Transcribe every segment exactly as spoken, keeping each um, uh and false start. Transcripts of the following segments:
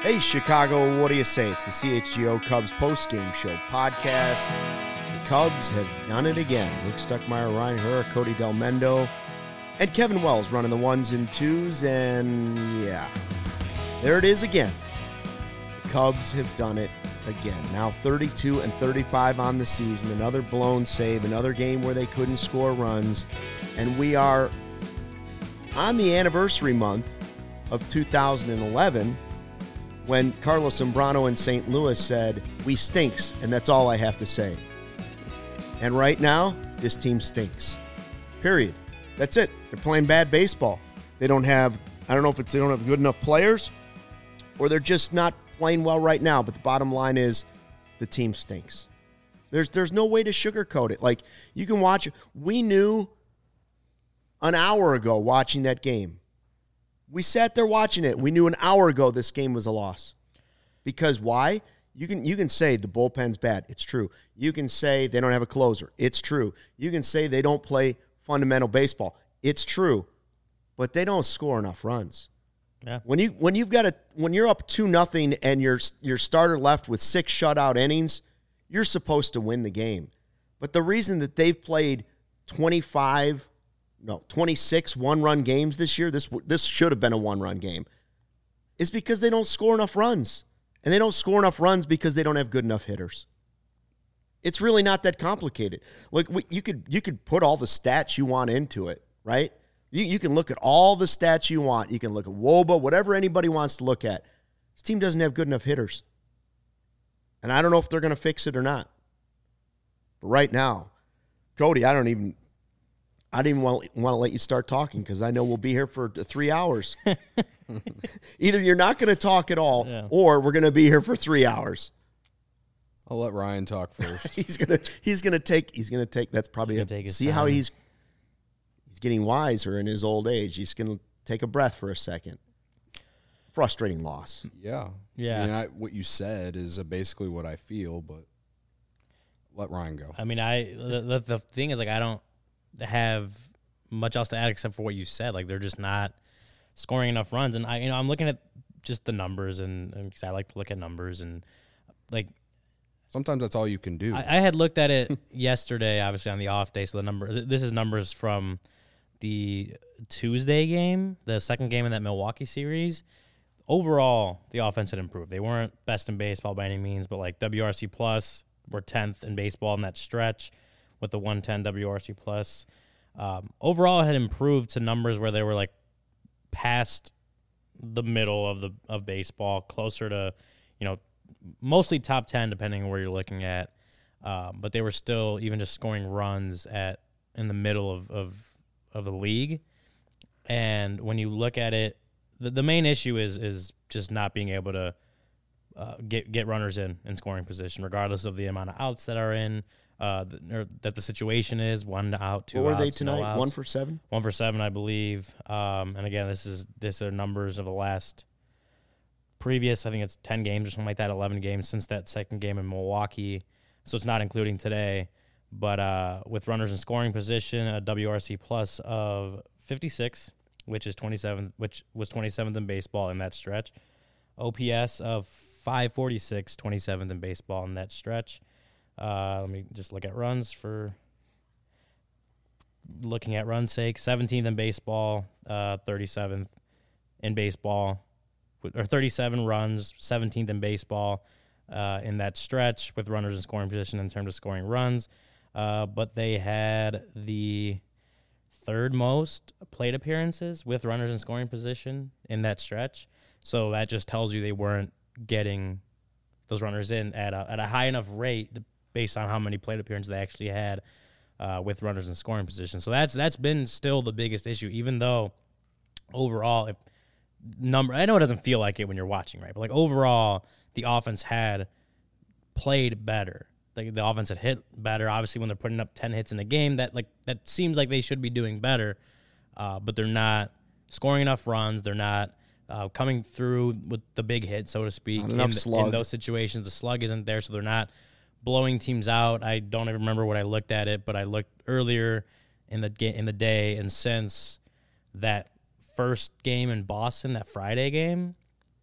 Hey, Chicago, what do you say? It's the C H G O Cubs post-game show podcast. The Cubs have done it again. Luke Stuckmeyer, Ryan Herr, Cody Del Mendo, and Kevin Wells running the ones and twos, and yeah, there it is again. The Cubs have done it again. Now thirty-two and thirty-five on the season, another blown save, another game where they couldn't score runs, and we are on the anniversary month of two thousand eleven, when Carlos Zambrano in Saint Louis said, "We stinks, and that's all I have to say." And right now, this team stinks. Period. That's it. They're playing bad baseball. They don't have, I don't know if it's they don't have good enough players, or they're just not playing well right now, but the bottom line is the team stinks. There's there's no way to sugarcoat it. Like, you can watch, we knew an hour ago watching that game. We sat there watching it. We knew an hour ago this game was a loss. Because why? You can you can say the bullpen's bad. It's true. You can say they don't have a closer. It's true. You can say they don't play fundamental baseball. It's true. But they don't score enough runs. Yeah. When you when you've got a when you're up two nothing and your your starter left with six shutout innings, you're supposed to win the game. But the reason that they've played twenty-five No, twenty-six one-run games this year, this this should have been a one-run game, is because they don't score enough runs. And they don't score enough runs because they don't have good enough hitters. It's really not that complicated. Look, we, you could you could put all the stats you want into it, right? You, you can look at all the stats you want. You can look at W O B A, whatever anybody wants to look at. This team doesn't have good enough hitters. And I don't know if they're going to fix it or not. But right now, Cody, I don't even... I didn't want, want to let you start talking because I know we'll be here for three hours. Either you're not going to talk at all, yeah, or we're going to be here for three hours. I'll let Ryan talk first. he's gonna he's gonna take he's gonna take. That's probably a, take see time. How he's he's getting wiser in his old age. He's gonna take a breath for a second. Frustrating loss. Yeah, yeah. I mean, I, what you said is basically what I feel, but let Ryan go. I mean, I the, the, the thing is, like, I don't have much else to add except for what you said. Like, they're just not scoring enough runs. And I, you know, I'm looking at just the numbers, and because I like to look at numbers, and like sometimes that's all you can do. I, I had looked at it yesterday, obviously on the off day. So the number, this is numbers from the Tuesday game, the second game in that Milwaukee series. Overall, the offense had improved. They weren't best in baseball by any means, but like W R C plus were tenth in baseball in that stretch, with the one ten W R C plus. Um, overall, it had improved to numbers where they were like past the middle of the of baseball, closer to, you know, mostly top ten, depending on where you're looking at. Um, but they were still even just scoring runs at in the middle of, of, of the league. And when you look at it, the, the main issue is is just not being able to uh, get get runners in in scoring position, regardless of the amount of outs that are in. Uh, or that the situation is one out, two. What were outs, they tonight? No outs. One for seven. One for seven, I believe. Um, and again, this is this are numbers of the last previous. I think it's ten games or something like that. Eleven games since that second game in Milwaukee. So it's not including today. But uh, with runners in scoring position, a W R C plus of fifty-six, which is twenty-seventh, which was twenty-seventh in baseball in that stretch. O P S of five forty-six, twenty-seventh in baseball in that stretch. Uh, let me just look at runs for looking at runs' sake. seventeenth in baseball, uh, thirty-seventh in baseball, or thirty-seven runs, seventeenth in baseball uh, in that stretch with runners in scoring position in terms of scoring runs. Uh, but they had the third most plate appearances with runners in scoring position in that stretch. So that just tells you they weren't getting those runners in at a, at a high enough rate based on how many plate appearances they actually had uh, with runners in scoring position. So that's that's been still the biggest issue, even though overall, if number I know it doesn't feel like it when you're watching, right? But like overall, the offense had played better. Like the offense had hit better. Obviously, when they're putting up ten hits in a game, that like that seems like they should be doing better, uh, but they're not scoring enough runs. They're not uh, coming through with the big hit, so to speak. Not enough in, slug. In those situations, the slug isn't there, so they're not blowing teams out. I don't even remember what I looked at it, but I looked earlier in the ga- in the day, and since that first game in Boston, that Friday game,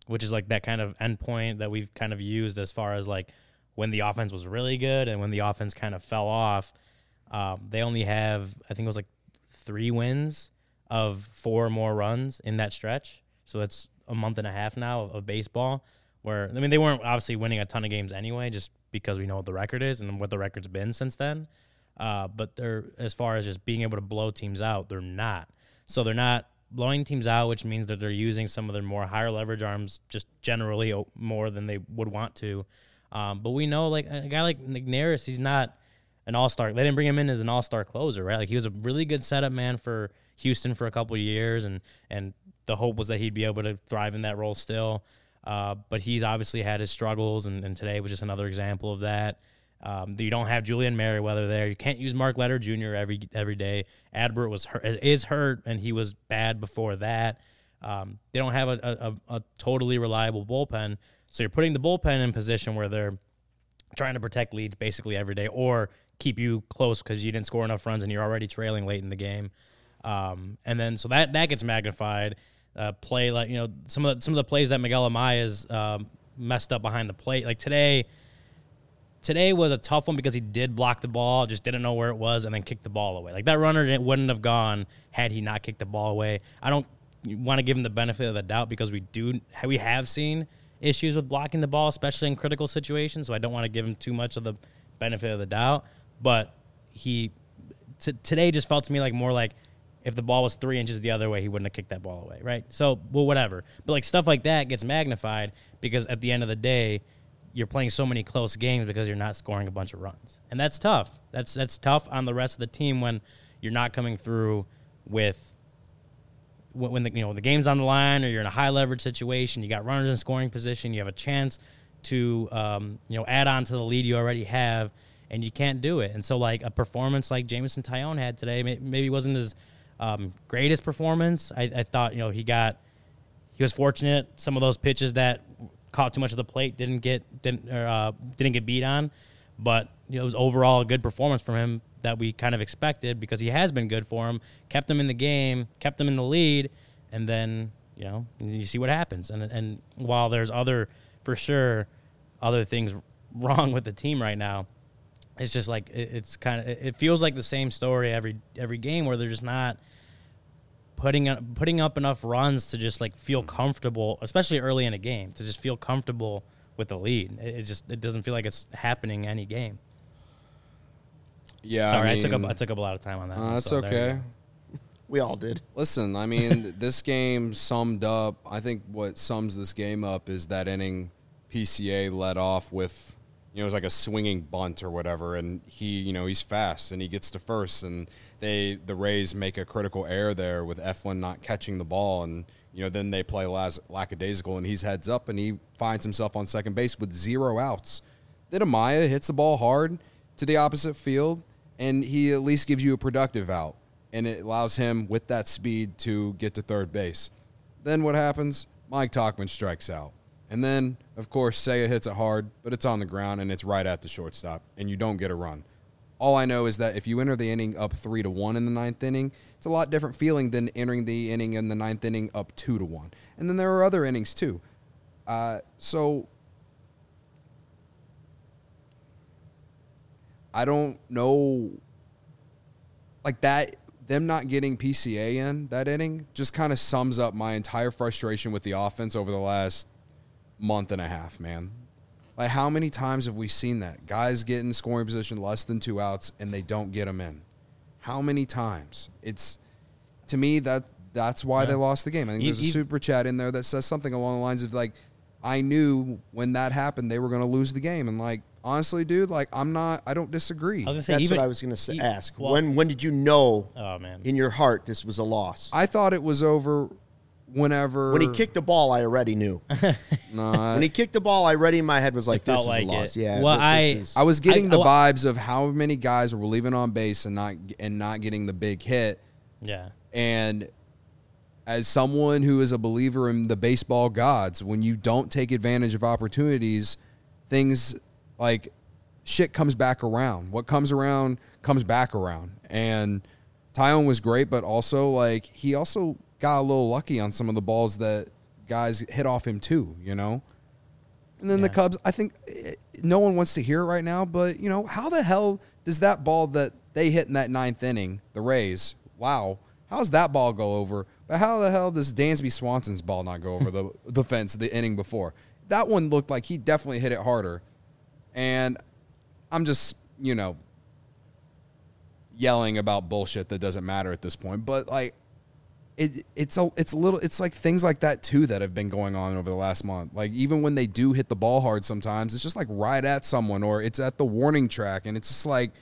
which is like that kind of endpoint that we've kind of used as far as like when the offense was really good and when the offense kind of fell off. Um, they only have, I think it was like three wins of four or more runs in that stretch. So that's a month and a half now of, of baseball where, I mean, they weren't obviously winning a ton of games anyway, just because we know what the record is and what the record's been since then. Uh, but they're, as far as just being able to blow teams out, they're not. So they're not blowing teams out, which means that they're using some of their more higher leverage arms just generally more than they would want to. Um, but we know, like, a guy like Neris, he's not an all-star. They didn't bring him in as an all-star closer, right? Like, he was a really good setup man for Houston for a couple of years, and and the hope was that he'd be able to thrive in that role still. Uh, but he's obviously had his struggles, and, and today was just another example of that. Um, you don't have Julian Merriweather there. You can't use Mark Letter Junior every every day. Adbert was hurt, is hurt, and he was bad before that. Um, they don't have a, a, a totally reliable bullpen, so you're putting the bullpen in position where they're trying to protect leads basically every day or keep you close because you didn't score enough runs and you're already trailing late in the game. Um, and then so that that gets magnified. Uh, play like you know some of the, some of the plays that Miguel Amaya's um, messed up behind the plate. Like today, today was a tough one because he did block the ball, just didn't know where it was, and then kicked the ball away. Like that runner didn't, wouldn't have gone had he not kicked the ball away. I don't want to give him the benefit of the doubt because we do we have seen issues with blocking the ball, especially in critical situations. So I don't want to give him too much of the benefit of the doubt. But he t- today just felt to me like more like. If the ball was three inches the other way, he wouldn't have kicked that ball away, right? So, well, whatever. But, like, stuff like that gets magnified because at the end of the day, you're playing so many close games because you're not scoring a bunch of runs. And that's tough. That's that's tough on the rest of the team when you're not coming through with when the you know the game's on the line or you're in a high-leverage situation, you got runners in scoring position, you have a chance to um, you know add on to the lead you already have, and you can't do it. And so, like, a performance like Jameson Taillon had today maybe wasn't as – Um, greatest performance. I, I thought, you know, he got, he was fortunate. Some of those pitches that caught too much of the plate didn't get, didn't, or, uh, didn't get beat on, but you know, it was overall a good performance from him that we kind of expected because he has been good for him, kept them in the game, kept them in the lead, and then, you know, you see what happens. And, and while there's other, for sure, other things wrong with the team right now, it's just like it's kind of it feels like the same story every every game where they're just not putting up, putting up enough runs to just like feel comfortable, especially early in a game, to just feel comfortable with the lead. It, it just it doesn't feel like it's happening any game. Yeah, sorry, I, I, mean, took up I took up a lot of time on that. Uh, one, that's so okay. We all did. Listen, I mean, this game summed up. I think what sums this game up is that inning P C A led off with. You know, it was like a swinging bunt or whatever, and he, you know, he's fast, and he gets to first, and they, the Rays make a critical error there with Eflin not catching the ball, and, you know, then they play las- lackadaisical, and he's heads up, and he finds himself on second base with zero outs. Then Amaya hits the ball hard to the opposite field, and he at least gives you a productive out, and it allows him, with that speed, to get to third base. Then what happens? Mike Tauchman strikes out. And then, of course, Seiya hits it hard, but it's on the ground, and it's right at the shortstop, and you don't get a run. All I know is that if you enter the inning up three to one in the ninth inning, it's a lot different feeling than entering the inning in the ninth inning up two to one. And then there are other innings, too. Uh, so, I don't know, like that, them not getting P C A in that inning just kind of sums up my entire frustration with the offense over the last month and a half, man. Like, how many times have we seen that? Guys get in scoring position less than two outs, and they don't get them in. How many times? It's, to me, that that's why yeah. they lost the game. I think there's a super chat in there that says something along the lines of, like, I knew when that happened they were going to lose the game. And, like, honestly, dude, like, I'm not – I don't disagree. I was say, That's even, what I was going to ask. Well, when when did you know oh, man. in your heart this was a loss? I thought it was over – Whenever when he kicked the ball, I already knew. no, when he kicked the ball, I already in my head was like, "This is like a loss." it. Yeah. Well, this, I is, I was getting I, the I, vibes of how many guys were leaving on base and not and not getting the big hit. Yeah. And as someone who is a believer in the baseball gods, when you don't take advantage of opportunities, things like shit comes back around. What comes around comes back around. And Taillon was great, but also like he also got a little lucky on some of the balls that guys hit off him too, you know? And then Yeah. the Cubs, I think eh, no one wants to hear it right now, but, you know, how the hell does that ball that they hit in that ninth inning, the Rays, wow, how's that ball go over? But how the hell does Dansby Swanson's ball not go over the, the fence the inning before? That one looked like he definitely hit it harder. And I'm just, you know, yelling about bullshit that doesn't matter at this point. But, like, It, it's a it's a little it's like things like that too that have been going on over the last month. Like even when they do hit the ball hard, sometimes it's just like right at someone or it's at the warning track, and it's just like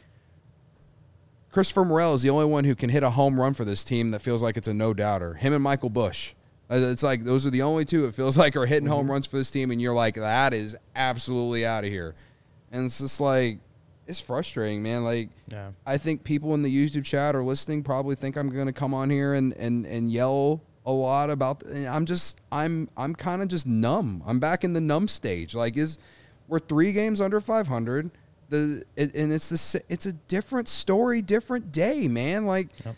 Christopher Morel is the only one who can hit a home run for this team that feels like it's a no doubter. Him and Michael Busch, it's like those are the only two it feels like are hitting mm-hmm. home runs for this team, and you're like that is absolutely out of here, and it's just like. It's frustrating, man. Like, yeah. I think people in the YouTube chat or listening probably think I'm going to come on here and, and, and yell a lot about. The, I'm just, I'm, I'm kind of just numb. I'm back in the numb stage. Like, is we're three games under five hundred. The it, and it's the it's a different story, different day, man. Like, yep.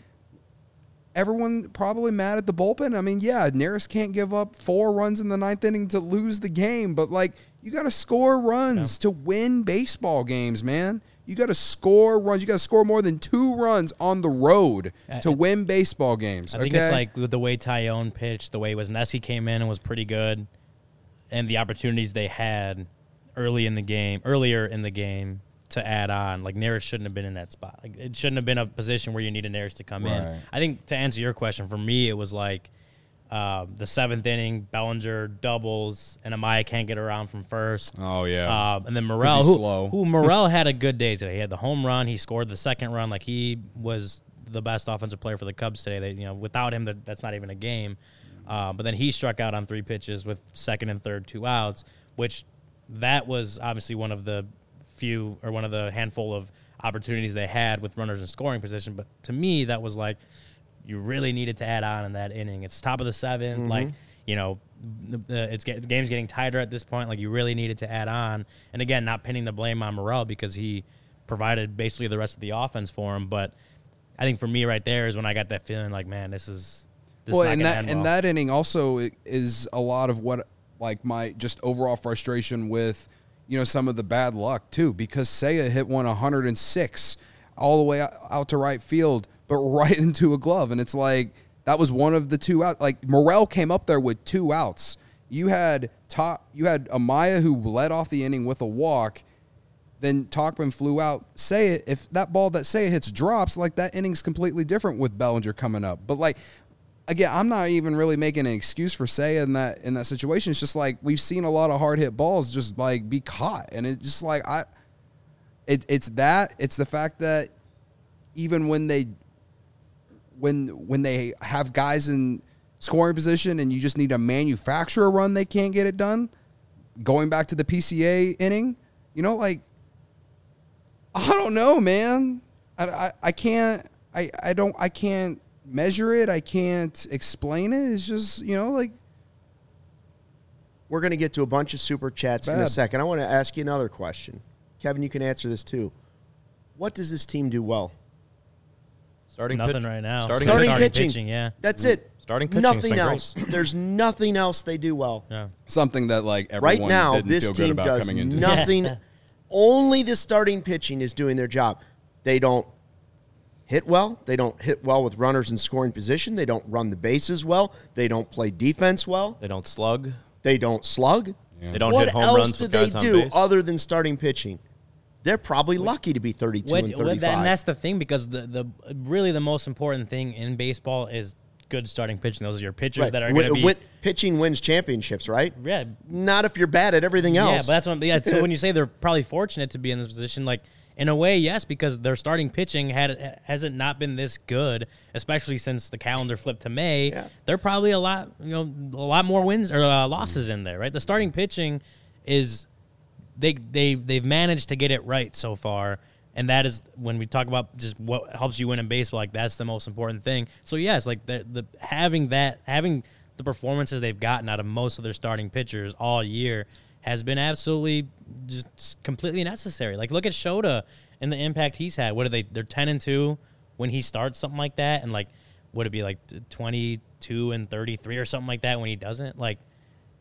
Everyone probably mad at the bullpen. I mean, yeah, Neris can't give up four runs in the ninth inning to lose the game, but like. You got to score runs yeah. to win baseball games, man. You got to score runs. You got to score more than two runs on the road to uh, win baseball games. I think okay? it's like with the way Tyone pitched, the way Wesneski came in and was pretty good, and the opportunities they had early in the game, earlier in the game to add on. Like Neris shouldn't have been in that spot. Like it shouldn't have been a position where you needed Neris to come right. in. I think to answer your question, for me, it was like. Uh, the seventh inning, Bellinger doubles, and Amaya can't get around from first. Oh, yeah. Uh, and then Morel, who, slow. who Morel had a good day today. He had the home run. He scored the second run. Like, he was the best offensive player for the Cubs today. They, you know, without him, that, that's not even a game. Uh, but then he struck out on three pitches with second and third, two outs, which that was obviously one of the few or one of the handful of opportunities they had with runners in scoring position. But to me, that was like, you really needed to add on in that inning. It's top of the seventh. Mm-hmm. Like, you know, the, the, it's get, the game's getting tighter at this point. Like, you really needed to add on. And, again, not pinning the blame on Morel because he provided basically the rest of the offense for him. But I think for me right there is when I got that feeling like, man, this is this well, is not and gonna that end and well. that inning also is a lot of what, like, my just overall frustration with, you know, some of the bad luck, too, because Seiya hit one one hundred six all the way out to right field, but right into a glove. And it's like, that was one of the two out. Like, Morel came up there with two outs. You had top, you had Amaya who led off the inning with a walk. Then Tauchman flew out. Seiya, if that ball that Seiya hits drops, like, that inning's completely different with Bellinger coming up. But, like, again, I'm not even really making an excuse for Seiya in that in that situation. It's just like we've seen a lot of hard hit balls just like be caught, and it's just like I, it it's that it's the fact that even when they when when they have guys in scoring position and you just need to manufacture a run, they can't get it done. Going back to the P C A inning, you know, like I don't know, man. I I, I can't I, I don't I can't. measure it. I can't explain it. It's just, you know, like. We're going to get to a bunch of super chats in a second. I want to ask you another question. Kevin, you can answer this too. What does this team do well? Starting Nothing pitch, right now. Starting, starting, starting pitching. pitching. Yeah. That's it. Starting pitching. Nothing else. There's nothing else they do well. Yeah. Something that, like, everyone right now, didn't this feel team good about does coming into. nothing. Only the starting pitching is doing their job. They don't hit well. They don't hit well with runners in scoring position. They don't run the bases well. They don't play defense well. They don't slug. They don't slug. Yeah. They don't what hit home else runs do with they guys do on base. other than starting pitching? They're probably lucky to be thirty-two What, and thirty-five. that, and that's the thing, because the, the really the most important thing in baseball is good starting pitching. Those are your pitchers right. that are going to be win, pitching wins championships, right? Yeah. Not if you're bad at everything else. Yeah, but that's what. Yeah. So when you say they're probably fortunate to be in this position, like. In a way, yes, because their starting pitching had hasn't not been this good, especially since the calendar flipped to May. Yeah. They're probably a lot, you know, a lot more wins or uh, losses in there, right? The starting pitching is they they they've managed to get it right so far, and that is when we talk about just what helps you win in baseball. Like that's the most important thing. So yes, like the the having that having the performances they've gotten out of most of their starting pitchers all year has been absolutely just completely necessary. Like, look at Shota and the impact he's had. What are they? They're ten and two when he starts something like that, and like, would it be like twenty-two and thirty-three or something like that when he doesn't? Like,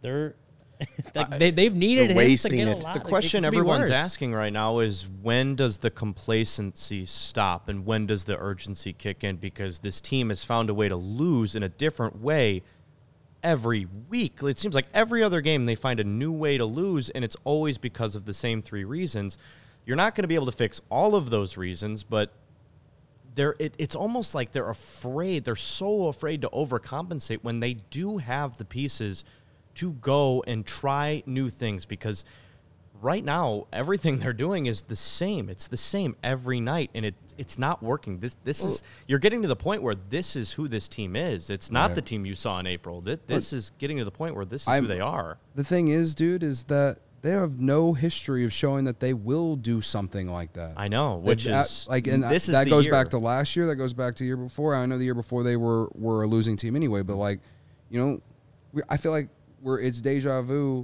They're like, they they've needed him to get a it. lot. The Like, question it could be everyone's worse. asking right now is when does the complacency stop and when does the urgency kick in? Because this team has found a way to lose in a different way every week. It seems like every other game they find a new way to lose, and it's always because of the same three reasons. You're not going to be able to fix all of those reasons, but they're it, it's almost like they're afraid. They're so afraid to overcompensate when they do have the pieces to go and try new things, because right now everything they're doing is the same. It's the same every night, and it it's not working. This this is you're getting to the point where this is who this team is. It's not Right. the team you saw in April. This, this is getting to the point where this is I'm- who they are. The thing is, dude, is that they have no history of showing that they will do something like that. I know, which That- is like, and this is that the goes year. back to last year. That goes back to the year before. I know the year before they were were a losing team anyway. But like, you know, we, I feel like we're it's deja vu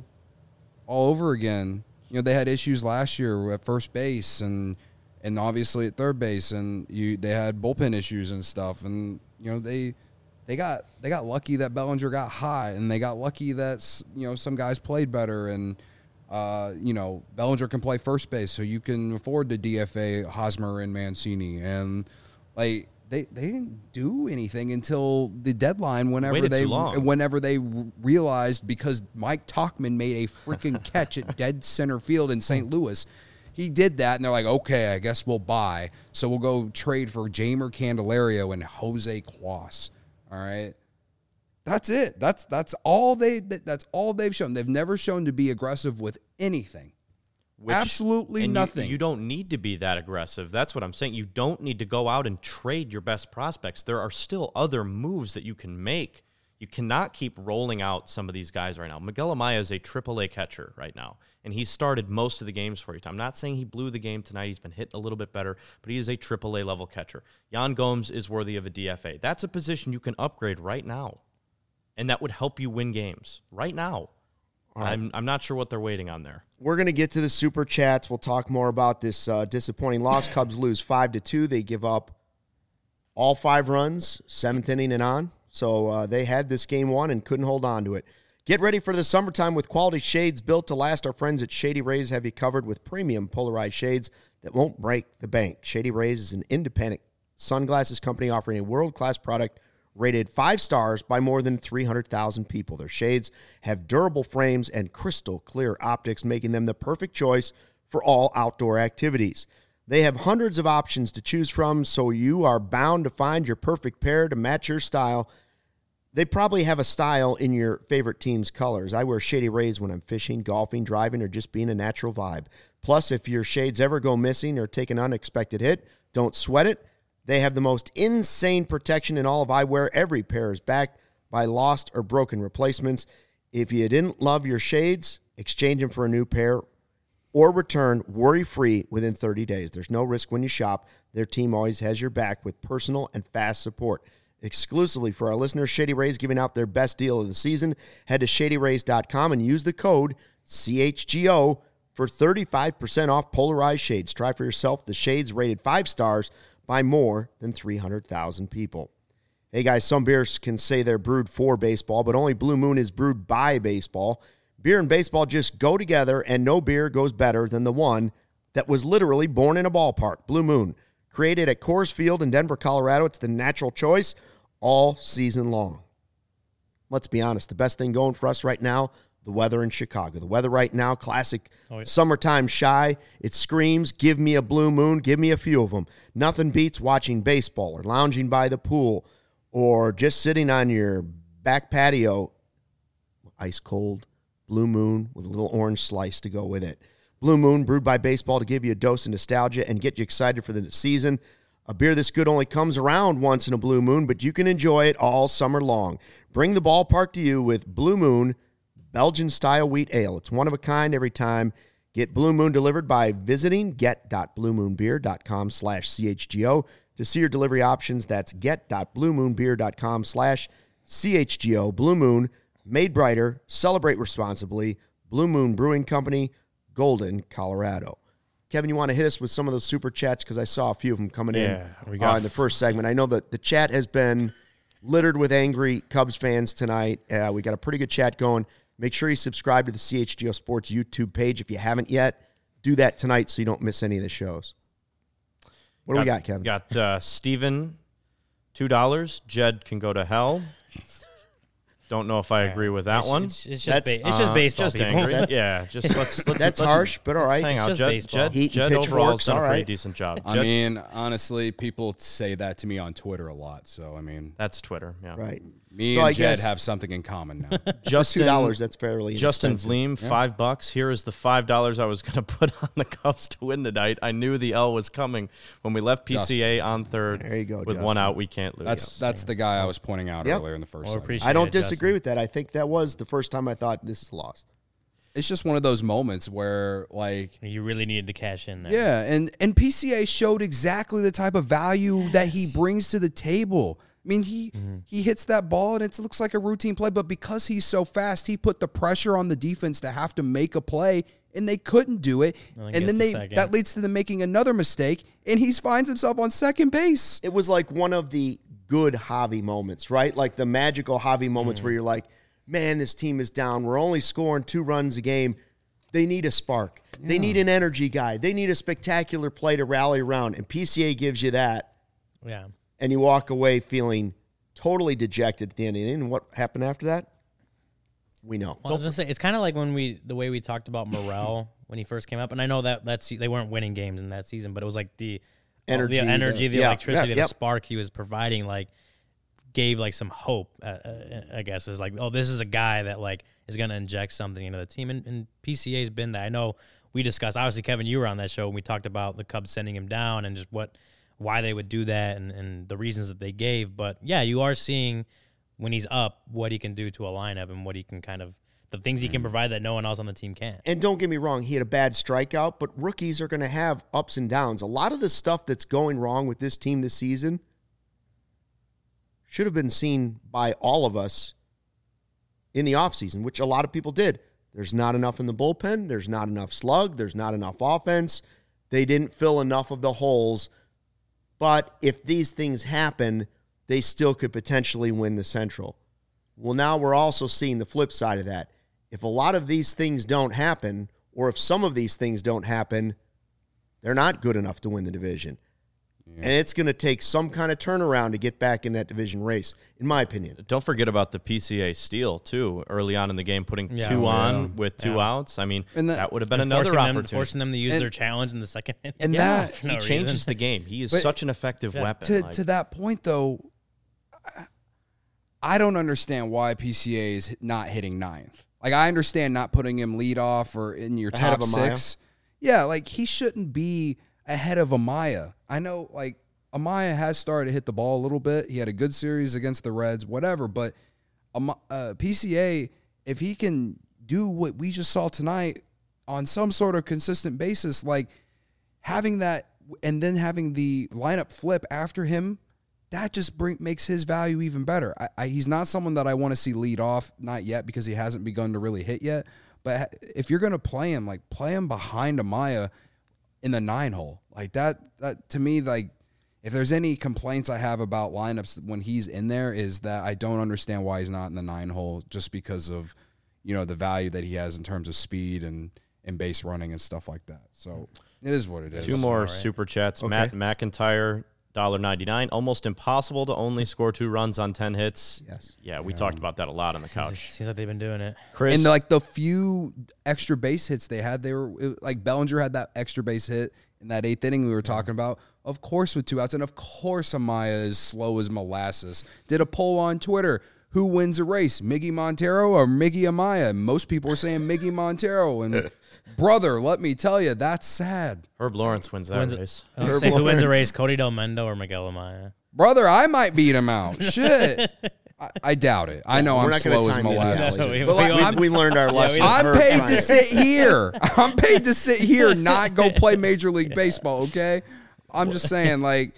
all over again. You know, they had issues last year at first base and and obviously at third base, and you they had bullpen issues and stuff. And you know they they got they got lucky that Bellinger got hot, and they got lucky that s- you know some guys played better, and uh, you know Bellinger can play first base, so you can afford to D F A Hosmer and Mancini, and like they they didn't do anything until the deadline. Whenever Waited they too long. whenever they r- realized, because Mike Tauchman made a freaking catch at dead center field in Saint Louis. He did that, and they're like, okay, I guess we'll buy. So we'll go trade for Jamer Candelario and Jose Cuas. All right, that's it. That's that's all they. that- That's all they've shown. They've never shown to be aggressive with anything. Which- Absolutely and you- nothing. You, don't need to be that aggressive. That's what I'm saying. You don't need to go out and trade your best prospects. There are still other moves that you can make. You cannot keep rolling out some of these guys right now. Miguel Amaya is a triple A catcher right now, and he's started most of the games for you. I'm not saying he blew the game tonight. He's been hitting a little bit better, but he is a triple A level catcher. Yan Gomes is worthy of a D F A. That's a position you can upgrade right now, and that would help you win games right now. right. I'm I'm not sure what they're waiting on there. We're going to get to the super chats. We'll talk more about this uh, disappointing loss. Cubs lose five to two. They give up all five runs, seventh inning and on. So uh, they had this game won and couldn't hold on to it. Get ready for the summertime with quality shades built to last. Our friends at Shady Rays have you covered with premium polarized shades that won't break the bank. Shady Rays is an independent sunglasses company offering a world-class product rated five stars by more than three hundred thousand people. Their shades have durable frames and crystal clear optics, making them the perfect choice for all outdoor activities. They have hundreds of options to choose from, so you are bound to find your perfect pair to match your style. They probably have a style in your favorite team's colors. I wear Shady Rays when I'm fishing, golfing, driving, or just being a natural vibe. Plus, if your shades ever go missing or take an unexpected hit, don't sweat it. They have the most insane protection in all of eyewear. Every pair is backed by lost or broken replacements. If you didn't love your shades, exchange them for a new pair or return worry-free within thirty days. There's no risk when you shop. Their team always has your back with personal and fast support. Exclusively for our listeners, Shady Rays giving out their best deal of the season. Head to shady rays dot com and use the code C H G O for thirty-five percent off polarized shades. Try for yourself the shades rated five stars by more than three hundred thousand people. Hey guys, some beers can say they're brewed for baseball, but only Blue Moon is brewed by baseball. Beer and baseball just go together, and no beer goes better than the one that was literally born in a ballpark. Blue Moon, created at Coors Field in Denver, Colorado. It's the natural choice all season long. Let's be honest, the best thing going for us right now, the weather in Chicago. The weather right now, classic Oh, yeah. summertime shy. It screams, give me a Blue Moon, give me a few of them. Nothing beats watching baseball or lounging by the pool or just sitting on your back patio, ice cold, Blue Moon with a little orange slice to go with it. Blue Moon, brewed by baseball to give you a dose of nostalgia and get you excited for the season. A beer this good only comes around once in a Blue Moon, but you can enjoy it all summer long. Bring the ballpark to you with Blue Moon Belgian-style wheat ale. It's one of a kind every time. Get Blue Moon delivered by visiting get dot blue moon beer dot com slash C H G O to see your delivery options. That's get dot blue moon beer dot com slash C H G O. Blue Moon, made brighter, celebrate responsibly. Blue Moon Brewing Company, Golden, Colorado. Kevin, you want to hit us with some of those super chats? Because I saw a few of them coming Yeah, in we got- uh, in the first segment. I know that the chat has been littered with angry Cubs fans tonight. Uh, we got a pretty good chat going. Make sure you subscribe to the C H G O Sports YouTube page if you haven't yet. Do that tonight so you don't miss any of the shows. What do we got, Kevin? Got uh, Steven, two dollars. Jed can go to hell. Don't know if I agree with that it's, one. It's, it's just That's, ba- it's just Uh, baseball. Just people. angry. That's- Yeah, just let's. let's That's let's, harsh, but all let's right. hang It's out. just Jed, baseball. Jed, Heat and Jed overall has pitchforks, done a all pretty right. decent job. I Jed- mean, honestly, people say that to me on Twitter a lot. So, I mean, that's Twitter. Yeah. Right. me So and I Jed guess- have something in common now. Justin two dollars, that's fairly Justin inexpensive. Vleem, five bucks. Here is the five dollars I was going to put on the Cubs to win tonight. I knew the L was coming when we left P C A on third. There you go, With Justin. one out, we can't lose. That's that's the guy I was pointing out Yep. earlier in the first Well, segment. appreciate I don't it, disagree Justin. with that. I think that was the first time I thought this is a loss. It's just one of those moments where, like, You really needed to cash in there. yeah, and and P C A showed exactly the type of value that he brings to the table. I mean, he he hits that ball and it looks like a routine play, but because he's so fast, he put the pressure on the defense to have to make a play, and they couldn't do it. Well, I And guess then the they second. that leads to them making another mistake, and he finds himself on second base. It was like one of the good Javi moments, right? Like the magical Javi moments where you're like, man, this team is down. We're only scoring two runs a game. They need a spark. They need an energy guy. They need a spectacular play to rally around. And P C A gives you that. Yeah. And you walk away feeling totally dejected at the end of the inning. And what happened after that? We know. Well, I was gonna say it's kind of like when we the way we talked about Morel when he first came up, and I know that that's they weren't winning games in that season, but it was like the Energy, the energy, the- the yeah, electricity, yeah, the yep. spark he was providing, like gave like some hope. Uh, uh, I guess is like, oh, this is a guy that like is gonna inject something into the team, and, and P C A's been that. I know we discussed. Obviously, Kevin, you were on that show, and we talked about the Cubs sending him down and just what why they would do that and, and the reasons that they gave. But yeah, you are seeing when he's up what he can do to a lineup and what he can kind of the things he can provide that no one else on the team can. And don't get me wrong, he had a bad strikeout, but rookies are going to have ups and downs. A lot of the stuff that's going wrong with this team this season should have been seen by all of us in the offseason, which a lot of people did. There's not enough in the bullpen. There's not enough slug. There's not enough offense. They didn't fill enough of the holes. But if these things happen, they still could potentially win the Central. Well, now we're also seeing the flip side of that. If a lot of these things don't happen, or if some of these things don't happen, they're not good enough to win the division. Yeah. And it's going to take some kind of turnaround to get back in that division race, in my opinion. Don't forget about the P C A steal, too, early on in the game, putting Yeah. two Oh, on yeah. with two Yeah. outs. I mean, And that, that- would have been And another forcing opportunity. them, forcing them to use And- their challenge in the second inning. And yeah, that- for he no changes reason. the game. He is But- such an effective Yeah. weapon. To like- to that point, though, I- I don't understand why P C A is not hitting ninth. Like, I understand not putting him lead off or in your Ahead top of Amaya. six. Yeah, like, he shouldn't be ahead of Amaya. I know, like, Amaya has started to hit the ball a little bit. He had a good series against the Reds, whatever. But um, uh, P C A, if he can do what we just saw tonight on some sort of consistent basis, like having that and then having the lineup flip after him, that just bring, makes his value even better. I, I, he's not someone that I want to see lead off, not yet, because he hasn't begun to really hit yet. But if you're going to play him, like play him behind Amaya in the nine hole. Like that, that to me, like if there's any complaints I have about lineups when he's in there is that I don't understand why he's not in the nine hole just because of, you know, the value that he has in terms of speed and, and base running and stuff like that. So it is what it is. Two more All right. super chats. Okay. Matt McIntyre, one dollar ninety-nine. Almost impossible to only score two runs on ten hits. Yes. Yeah, we talked about that a lot on the couch. Seems like they've been doing it. Chris, And like the few extra base hits they had, they were it, like Bellinger had that extra base hit in that eighth inning we were talking about. Of course, with two outs, and of course, Amaya is slow as molasses. Did a poll on Twitter: who wins a race, Miggy Montero or Miggy Amaya? Most people were saying Miggy Montero, and brother, let me tell you, that's sad. Herb Lawrence wins that Wins it. race. I was saying, who wins a race, Cody Del Mendo or Miguel Amaya? Brother, I might beat him out. Shit. I, I doubt it. I know we're I'm not gonna slow as time you to molasses. that. We- But like, we- I'm, We learned our lesson. we- I'm Herb paid trying to sit here. I'm paid to sit here, not go play Major League Baseball, okay? I'm just saying, like,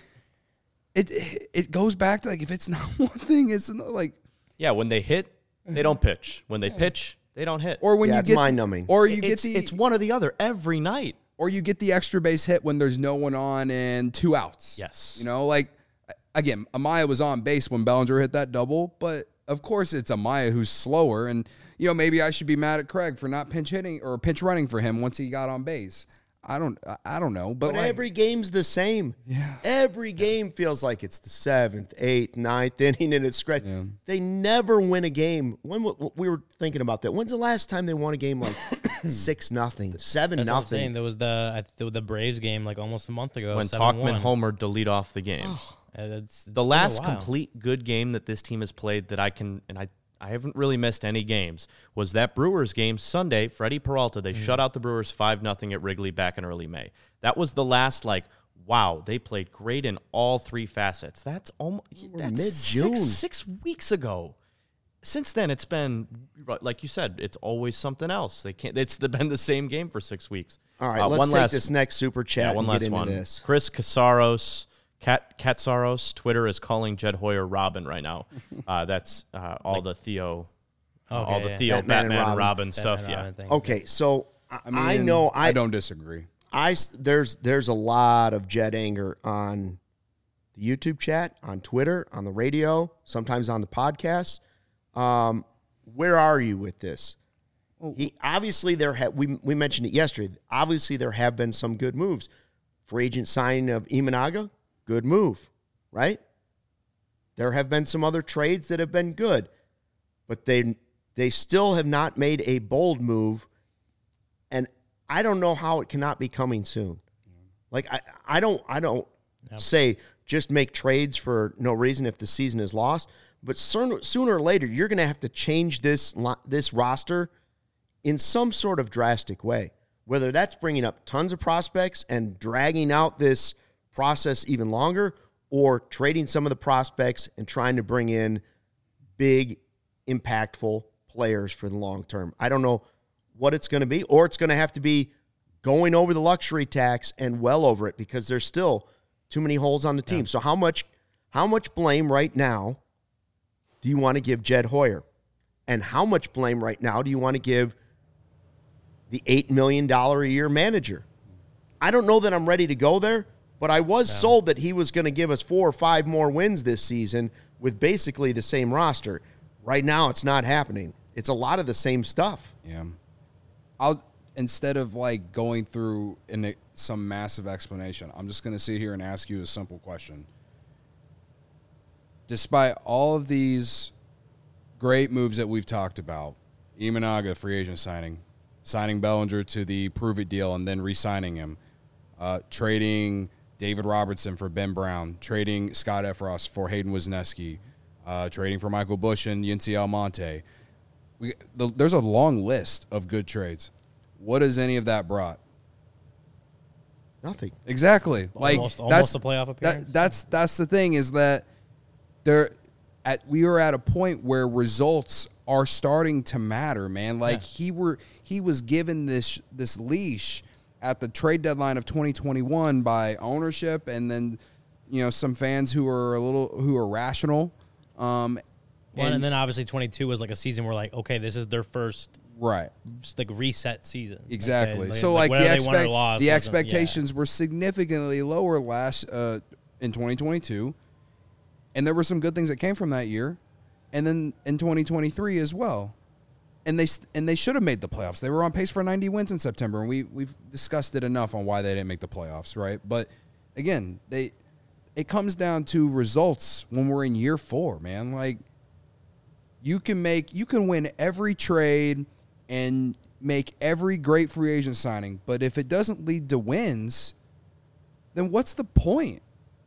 it it goes back to, like, if it's not one thing, it's another, like, Yeah, when they hit, they don't pitch. When they pitch, they don't hit. or when Yeah, you it's get mind-numbing. or you get it's, the it's one or the other every night. or you get the extra base hit when there's no one on and two outs. Yes. You know, like, again, Amaya was on base when Bellinger hit that double, but of course it's Amaya who's slower, and you know maybe I should be mad at Craig for not pinch hitting or pinch running for him once he got on base. I don't I don't know, but, But like, every game's the same. Yeah. Every game feels like it's the seventh, eighth, ninth inning, and it's scratch. Yeah. They never win a game. When w- we were thinking about that, when's the last time they won a game like six nothing, seven That's what I'm saying. nothing? There was the I, the, the Braves game like almost a month ago when seven one. Talkman homered to lead off the game. And it's, it's the been a last while. complete good game that this team has played that I can, and I, I haven't really missed any games, was that Brewers game Sunday. Freddie Peralta, they mm. shut out the Brewers five nothing at Wrigley back in early May. That was the last, like, wow, they played great in all three facets. That's almost that's mid-June. Six, six weeks ago. Since then, it's been, like you said, it's always something else. They can't. It's been the same game for six weeks. All right, Uh, let's one take last, this next super chat yeah, one and last get into one. this. Chris Casaros, Cat Katsaros, Twitter is calling Jed Hoyer Robin right now. Uh, that's uh, all Like- the Theo, uh, Okay, all the yeah. Theo Batman and Batman, and Robin. Robin, stuff. Batman Yeah. Robin thing. Okay, so I, I, mean, I know I, I don't disagree. I s- there's there's a lot of Jed anger on the YouTube chat, on Twitter, on the radio, sometimes on the podcast. Um, where are you with this? He obviously there ha- we we mentioned it yesterday. Obviously there have been some good moves. Free agent signing of Imanaga, good move, right? There have been some other trades that have been good, but they they still have not made a bold move, and I don't know how it cannot be coming soon. Like I I don't I don't Yep. say just make trades for no reason if the season is lost, but sooner, sooner or later you're going to have to change this lo- this roster in some sort of drastic way, whether that's bringing up tons of prospects and dragging out this process even longer, or trading some of the prospects and trying to bring in big, impactful players for the long term. I don't know what it's going to be, or it's going to have to be going over the luxury tax and well over it, because there's still too many holes on the team. Yeah. So how much how much blame right now do you want to give Jed Hoyer? And how much blame right now do you want to give the eight million dollars a year manager? I don't know that I'm ready to go there, but I was yeah. sold that he was going to give us four or five more wins this season with basically the same roster. Right now, it's not happening. It's a lot of the same stuff. Yeah. I'll instead of like going through in some massive explanation, I'm just going to sit here and ask you a simple question. Despite all of these great moves that we've talked about, Imanaga free agent signing, signing Bellinger to the Prove It deal and then re-signing him, uh, trading David Robertson for Ben Brown, trading Scott Efros for Hayden Wisniewski, uh, trading for Michael Busch and Yency Almonte. We, the, there's a long list of good trades. What has any of that brought? Nothing. Exactly. Like almost, that's almost a playoff appearance. That, that's that's the thing is that there at we are at a point where results are starting to matter, man. Like yeah. he were he was given this this leash at the trade deadline of twenty twenty-one by ownership, and then you know some fans who are a little who are rational. Um, well, and, and then obviously twenty-two was like a season where like okay, this is their first right like reset season. Exactly. Like, so like, like, the, expect, the expectations yeah. were significantly lower last uh, in twenty twenty-two, and there were some good things that came from that year, and then in twenty twenty-three as well. And they and they should have made the playoffs. They were on pace for ninety wins in September, and we we've discussed it enough on why they didn't make the playoffs, right? But again, they it comes down to results when we're in year four, man. Like you can make you can win every trade and make every great free agent signing, but if it doesn't lead to wins, then what's the point?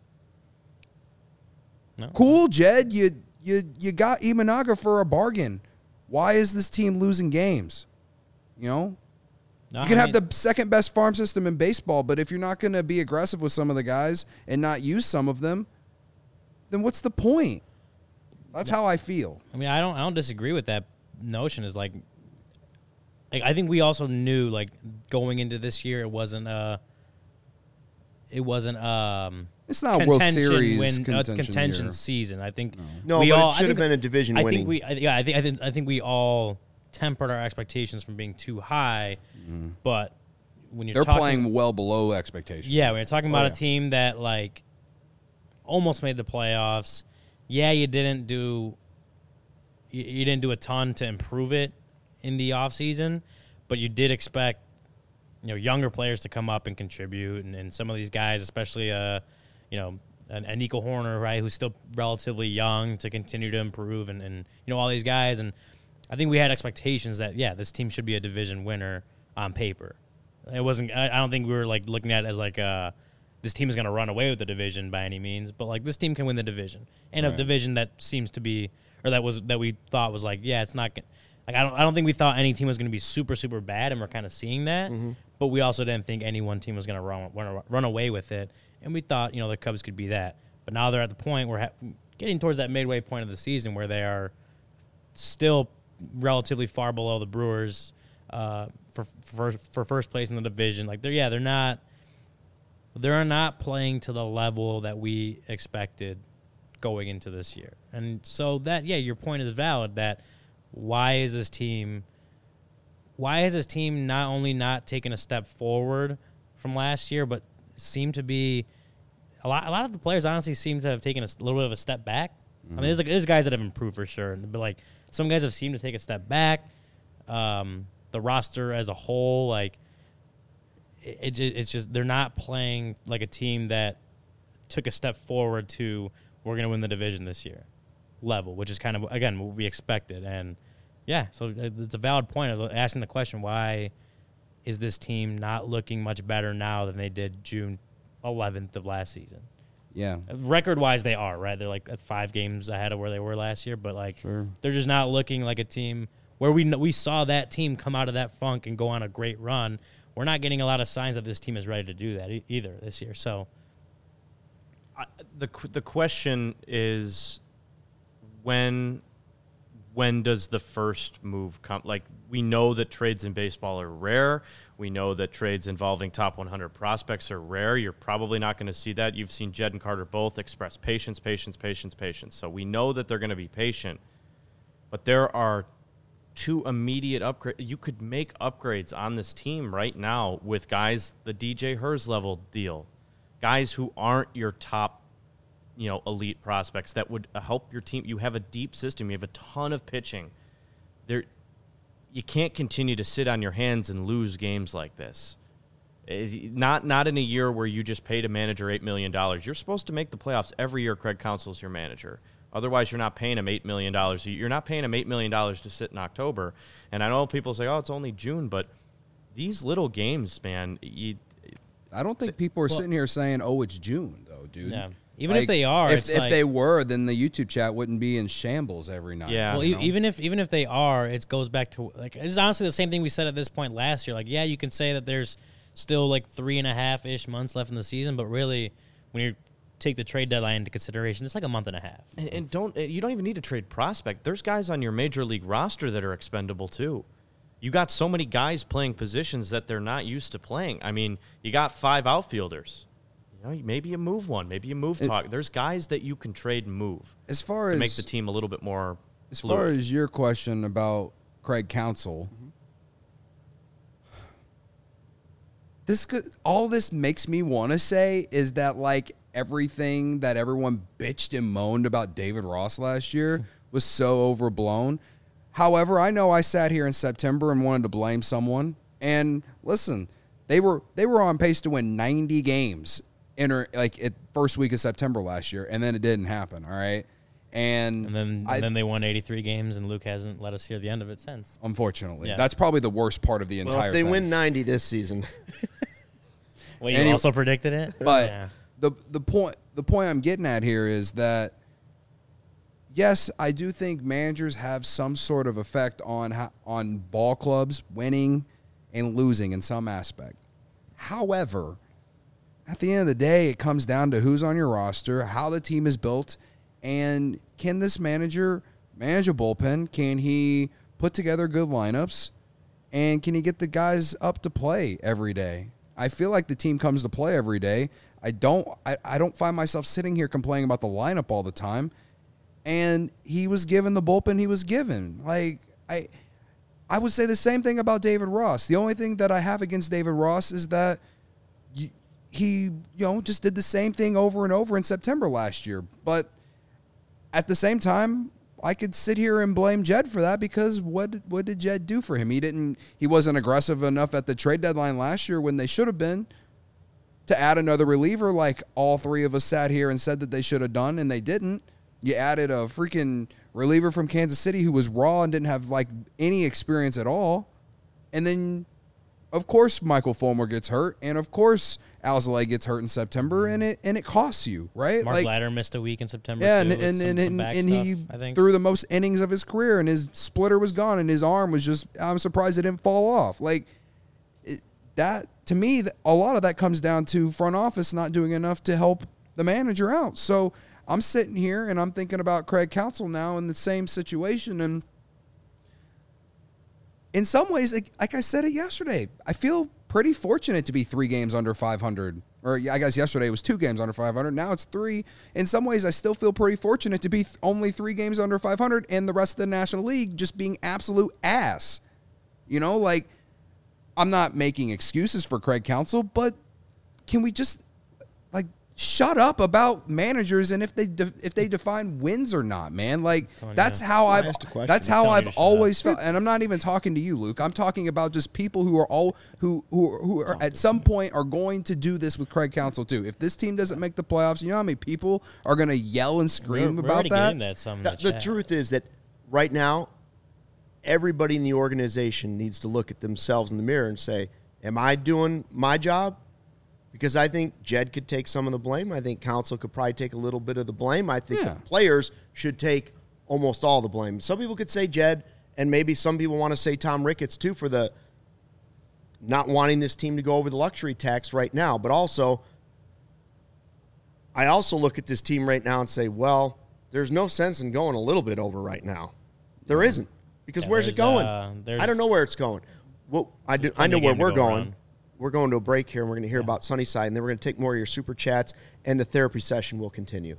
No. Cool, Jed, you you you got Imanaga for a bargain. Why is this team losing games? You know? No, you can I mean, have the second best farm system in baseball, but if you're not going to be aggressive with some of the guys and not use some of them, then what's the point? That's how I feel. I mean, I don't I don't disagree with that notion. Is like, like I think we also knew like going into this year it wasn't uh it wasn't um it's not a World Series win, contention, uh, contention year. season. I think no, we but all, it should have been a division I winning. think we yeah I think I think I think we all tempered our expectations from being too high, mm. but when you're they're talking, playing well below expectations. Yeah, when you're talking about oh, yeah. a team that like almost made the playoffs. Yeah, you didn't do you, you didn't do a ton to improve it in the offseason, but you did expect, you know, younger players to come up and contribute, and, and some of these guys, especially, uh, you know, an, an Nico Horner, right, who's still relatively young, to continue to improve, and, and you know, all these guys. And I think we had expectations that, yeah, this team should be a division winner on paper. It wasn't. I, I don't think we were like looking at it as like uh, this team is going to run away with the division by any means, but like this team can win the division, and right. a division that seems to be, or that was that we thought was like, yeah, it's not. Like I don't. I don't think we thought any team was going to be super super bad, and we're kind of seeing that. Mm-hmm. But we also didn't think any one team was going to run, run run away with it, and we thought, you know, the Cubs could be that. But now they're at the point where ha- getting towards that midway point of the season where they are still relatively far below the Brewers uh, for for for first place in the division. Like they're yeah they're not they're not playing to the level that we expected going into this year, and so that yeah your point is valid that. Why is this team why has this team not only not taken a step forward from last year, but seem to be a lot a lot of the players honestly seem to have taken a little bit of a step back. Mm-hmm. I mean, there's like there's guys that have improved for sure, but like some guys have seemed to take a step back. Um, the roster as a whole, like it, it it's just they're not playing like a team that took a step forward to we're going to win the division this year level, which is kind of, again, what we expected. And, yeah, so it's a valid point of asking the question, why is this team not looking much better now than they did June eleventh of last season? Yeah. Record-wise, they are, right? They're, like, at five games ahead of where they were last year, but, like, sure. They're just not looking like a team where we we saw that team come out of that funk and go on a great run. We're not getting a lot of signs that this team is ready to do that e- either this year. So I, the the question is, when when does the first move come? Like, we know that trades in baseball are rare. We know that trades involving top one hundred prospects are rare. You're probably not going to see that. You've seen Jed and Carter both express patience, patience, patience, patience. So we know that they're going to be patient. But there are two immediate upgrades. You could make upgrades on this team right now with guys, the D J Hurst level deal, guys who aren't your top, you know, elite prospects that would help your team. You have a deep system. You have a ton of pitching. There, you can't continue to sit on your hands and lose games like this. Not not in a year where you just paid a manager eight million dollars. You're supposed to make the playoffs every year. Craig Counsell's your manager. Otherwise, you're not paying him eight million dollars. You're not paying him eight million dollars to sit in October. And I know people say, oh, it's only June, but these little games, man, you, I don't think people are well, sitting here saying, oh, it's June, though, dude. Yeah. Even like, if they are, if, it's if like, they were, then the YouTube chat wouldn't be in shambles every night. Yeah. Well, you know? even if even if they are, it goes back to like it's honestly the same thing we said at this point last year. Like, yeah, you can say that there's still like three and a half ish months left in the season, but really, when you take the trade deadline into consideration, it's like a month and a half. And, and don't you don't even need to trade prospect. There's guys on your major league roster that are expendable too. You got so many guys playing positions that they're not used to playing. I mean, you got five outfielders. You know, maybe you move one. Maybe you move talk. There's guys that you can trade and move as far to as make the team a little bit more. As fluid. far as your question about Craig Counsell, mm-hmm. this could, all this makes me want to say is that like everything that everyone bitched and moaned about David Ross last year was so overblown. However, I know I sat here in September and wanted to blame someone. And listen, they were they were on pace to win ninety games in like at first week of September last year, and then it didn't happen. All right, and and then I, and then they won eighty-three games, and Luke hasn't let us hear the end of it since. Unfortunately, yeah. That's probably the worst part of the entire. Well, if they thing. win ninety this season, well, you anyway, also predicted it, but yeah. the the point the point I'm getting at here is that. Yes, I do think managers have some sort of effect on how, on ball clubs winning and losing in some aspect. However, at the end of the day, it comes down to who's on your roster, how the team is built, and can this manager manage a bullpen? Can he put together good lineups? And can he get the guys up to play every day? I feel like the team comes to play every day. I don't I, I don't find myself sitting here complaining about the lineup all the time. And he was given the bullpen he was given. Like, I I would say the same thing about David Ross. The only thing that I have against David Ross is that he, you know, just did the same thing over and over in September last year. But at the same time, I could sit here and blame Jed for that because what what did Jed do for him? He didn't. He wasn't aggressive enough at the trade deadline last year when they should have been to add another reliever like all three of us sat here and said that they should have done, and they didn't. You added a freaking reliever from Kansas City who was raw and didn't have like any experience at all, and then of course Michael Fulmer gets hurt, and of course Alzolay gets hurt in September, and it and it costs you, right? Mark like, Ladder missed a week in September. Yeah, too, and with and some- and, some and, back and he stuff, I think. threw the most innings of his career, and his splitter was gone, and his arm was just. I'm surprised it didn't fall off. Like it, that to me, th- a lot of that comes down to front office not doing enough to help the manager out. So I'm sitting here and I'm thinking about Craig Counsell now in the same situation, and in some ways, like, like I said it yesterday, I feel pretty fortunate to be three games under five hundred. Or I guess yesterday it was two games under five hundred. Now it's three. In some ways, I still feel pretty fortunate to be th- only three games under five hundred and the rest of the National League just being absolute ass. You know, like, I'm not making excuses for Craig Counsell, but can we just, like, shut up about managers and if they de- if they define wins or not, man? Like, that's how I I've asked a question. that's how Telling you I've to shut always felt. And I'm not even talking to you, Luke. I'm talking about just people who are all who who who are at some point are going to do this with Craig Counsell too. If this team doesn't make the playoffs, you know how many people are going to yell and We're, scream we're about already that? getting that some in The, the, the chat. truth is that right now, everybody in the organization needs to look at themselves in the mirror and say, am I doing my job? Because I think Jed could take some of the blame. I think Counsell could probably take a little bit of the blame. I think Yeah. the players should take almost all the blame. Some people could say Jed, and maybe some people want to say Tom Ricketts too for the not wanting this team to go over the luxury tax right now. But also, I also look at this team right now and say, well, there's no sense in going a little bit over right now. There isn't. Because Yeah, where's it there's, going? uh, I don't there's- know where it's going. Well, I do. I plenty know of where game to we're go going. around. We're going to a break here, and we're going to hear about Sunnyside, and then we're going to take more of your super chats, and the therapy session will continue.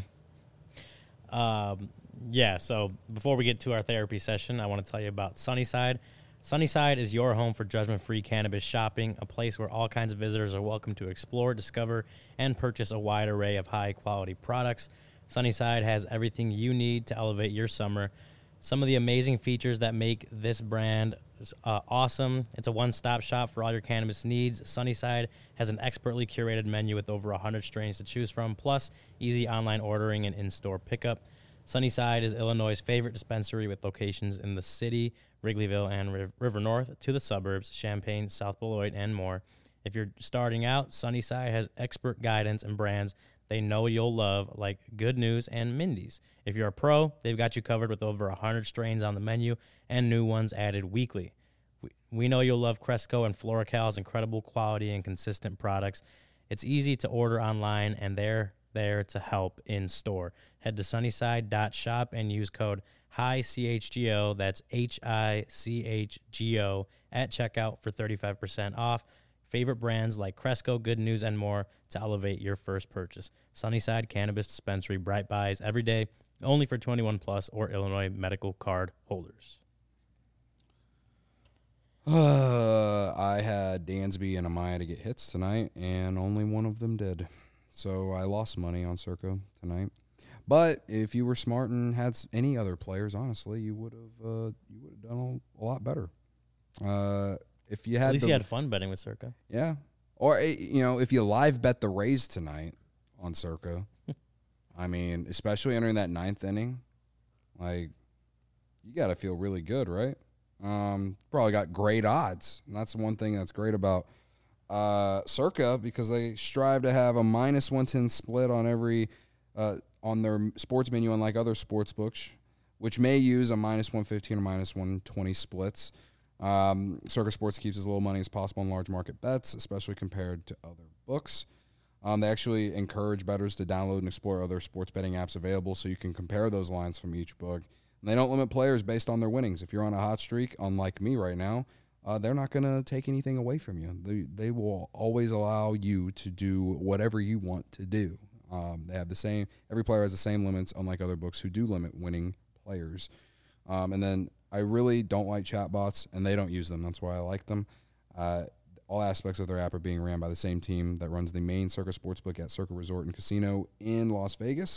Um, yeah, so before we get to our therapy session, I want to tell you about Sunnyside. Sunnyside is your home for judgment-free cannabis shopping, a place where all kinds of visitors are welcome to explore, discover, and purchase a wide array of high-quality products. Sunnyside has everything you need to elevate your summer. Some of the amazing features that make this brand uh, awesome. It's a one-stop shop for all your cannabis needs. Sunnyside has an expertly curated menu with over one hundred strains to choose from, plus easy online ordering and in-store pickup. Sunnyside is Illinois' favorite dispensary with locations in the city, Wrigleyville, and Riv- River North, to the suburbs, Champaign, South Beloit, and more. If you're starting out, Sunnyside has expert guidance and brands they know you'll love, like Good News and Mindy's. If you're a pro, they've got you covered with over one hundred strains on the menu and new ones added weekly. We, we know you'll love Cresco and FloraCal's incredible quality and consistent products. It's easy to order online, and they're there to help in store. Head to sunnyside dot shop and use code HICHGO, that's H I C H G O, at checkout for thirty-five percent off. Favorite brands like Cresco, Good News, and more to elevate your first purchase. Sunnyside Cannabis Dispensary, Bright Buys every day, only for twenty-one plus or Illinois medical card holders. Uh, I had Dansby and Amaya to get hits tonight, and only one of them did. So I lost money on Circa tonight. But if you were smart and had s- any other players, honestly, you would have uh, you would have done a, a lot better. Uh, if you had At least the, you had fun betting with Circa. yeah, or eh, you know, if you live bet the Rays tonight on Circa, I mean, especially entering that ninth inning, like you got to feel really good, right? Um, probably got great odds, and that's the one thing that's great about uh, Circa, because they strive to have a minus one ten split on every uh, on their sports menu, unlike other sports books, which may use a minus one fifteen or minus one twenty splits. Um, Circa Sports keeps as little money as possible in large market bets, especially compared to other books. Um, they actually encourage bettors to download and explore other sports betting apps available so you can compare those lines from each book. And they don't limit players based on their winnings. If you're on a hot streak, unlike me right now, uh, they're not going to take anything away from you. They, they will always allow you to do whatever you want to do. Um, they have the same, every player has the same limits, unlike other books who do limit winning players. Um, and then I really don't like chatbots, and they don't use them. That's why I like them. Uh, all aspects of their app are being ran by the same team that runs the main Circa Sportsbook at Circa Resort and Casino in Las Vegas.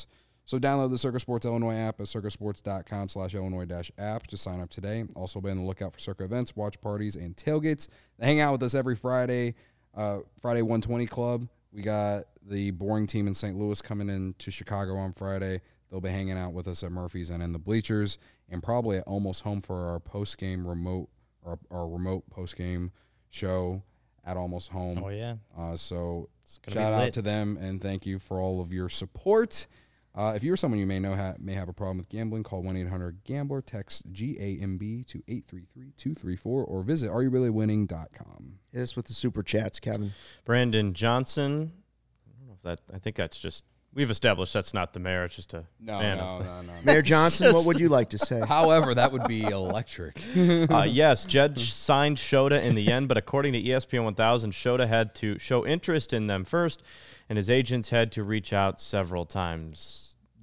So download the Circa Sports Illinois app at circasports.com slash Illinois dash app to sign up today. Also be on the lookout for Circa events, watch parties, and tailgates. They hang out with us every Friday, uh, Friday one twenty Club. We got the boring team in Saint Louis coming in to Chicago on Friday. They'll be hanging out with us at Murphy's and in the bleachers, and probably at Almost Home for our post-game remote, our, our remote post-game show at Almost Home. Oh, yeah. Uh, so gonna shout be out lit. to them, and thank you for all of your support. Uh, if you're someone you may know ha- may have a problem with gambling, call one eight hundred gambler, text G A M B to eight three three two three four, or visit are you really winning dot com. Hit us with the super chats, Kevin. Brandon Johnson. I don't know if that. I think that's just we've established that's not the mayor. It's just a No, fan no, of the, no, no. Mayor Johnson, what would you like to say? However, that would be electric. Uh, yes, Jed signed Shota in the end, but according to E S P N one thousand, Shota had to show interest in them first, and his agents had to reach out several times.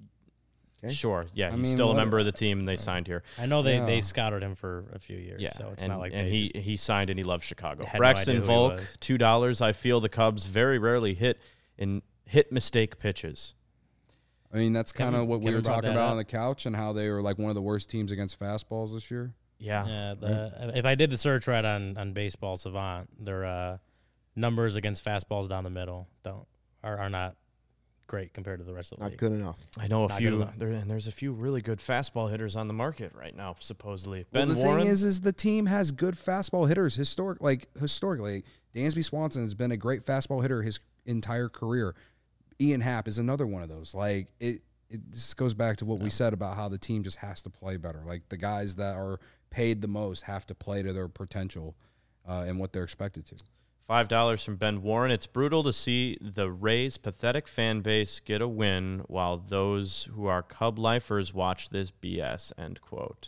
Okay. Sure, yeah, I he's mean, still a what- member of the team, and they signed here. I know they, Yeah. they scouted him for a few years, Yeah, so it's and, not like and they he just, he signed and he loves Chicago. had no Braxton idea who he Volk, was. two dollars. I feel the Cubs very rarely hit in hit mistake pitches. I mean, that's kind of Kevin- what we Kevin were brought talking that about up. on the couch and how they were like one of the worst teams against fastballs this year. Yeah, yeah, the, if I did the search right on, on Baseball Savant, their uh, numbers against fastballs down the middle don't are, are not great compared to the rest of the Not league. good enough. I know a Not good few, enough. there, and there's a few really good fastball hitters on the market right now, supposedly. Well, Ben the Warren, thing is, is the team has good fastball hitters. Historic, like historically, Dansby Swanson has been a great fastball hitter his entire career. Ian Happ is another one of those. Like it, it just goes back to what we said about how the team just has to play better. Like the guys that are paid the most have to play to their potential uh, and what they're expected to. five dollars from Ben Warren. It's brutal to see the Rays' pathetic fan base get a win while those who are Cub lifers watch this B S, end quote.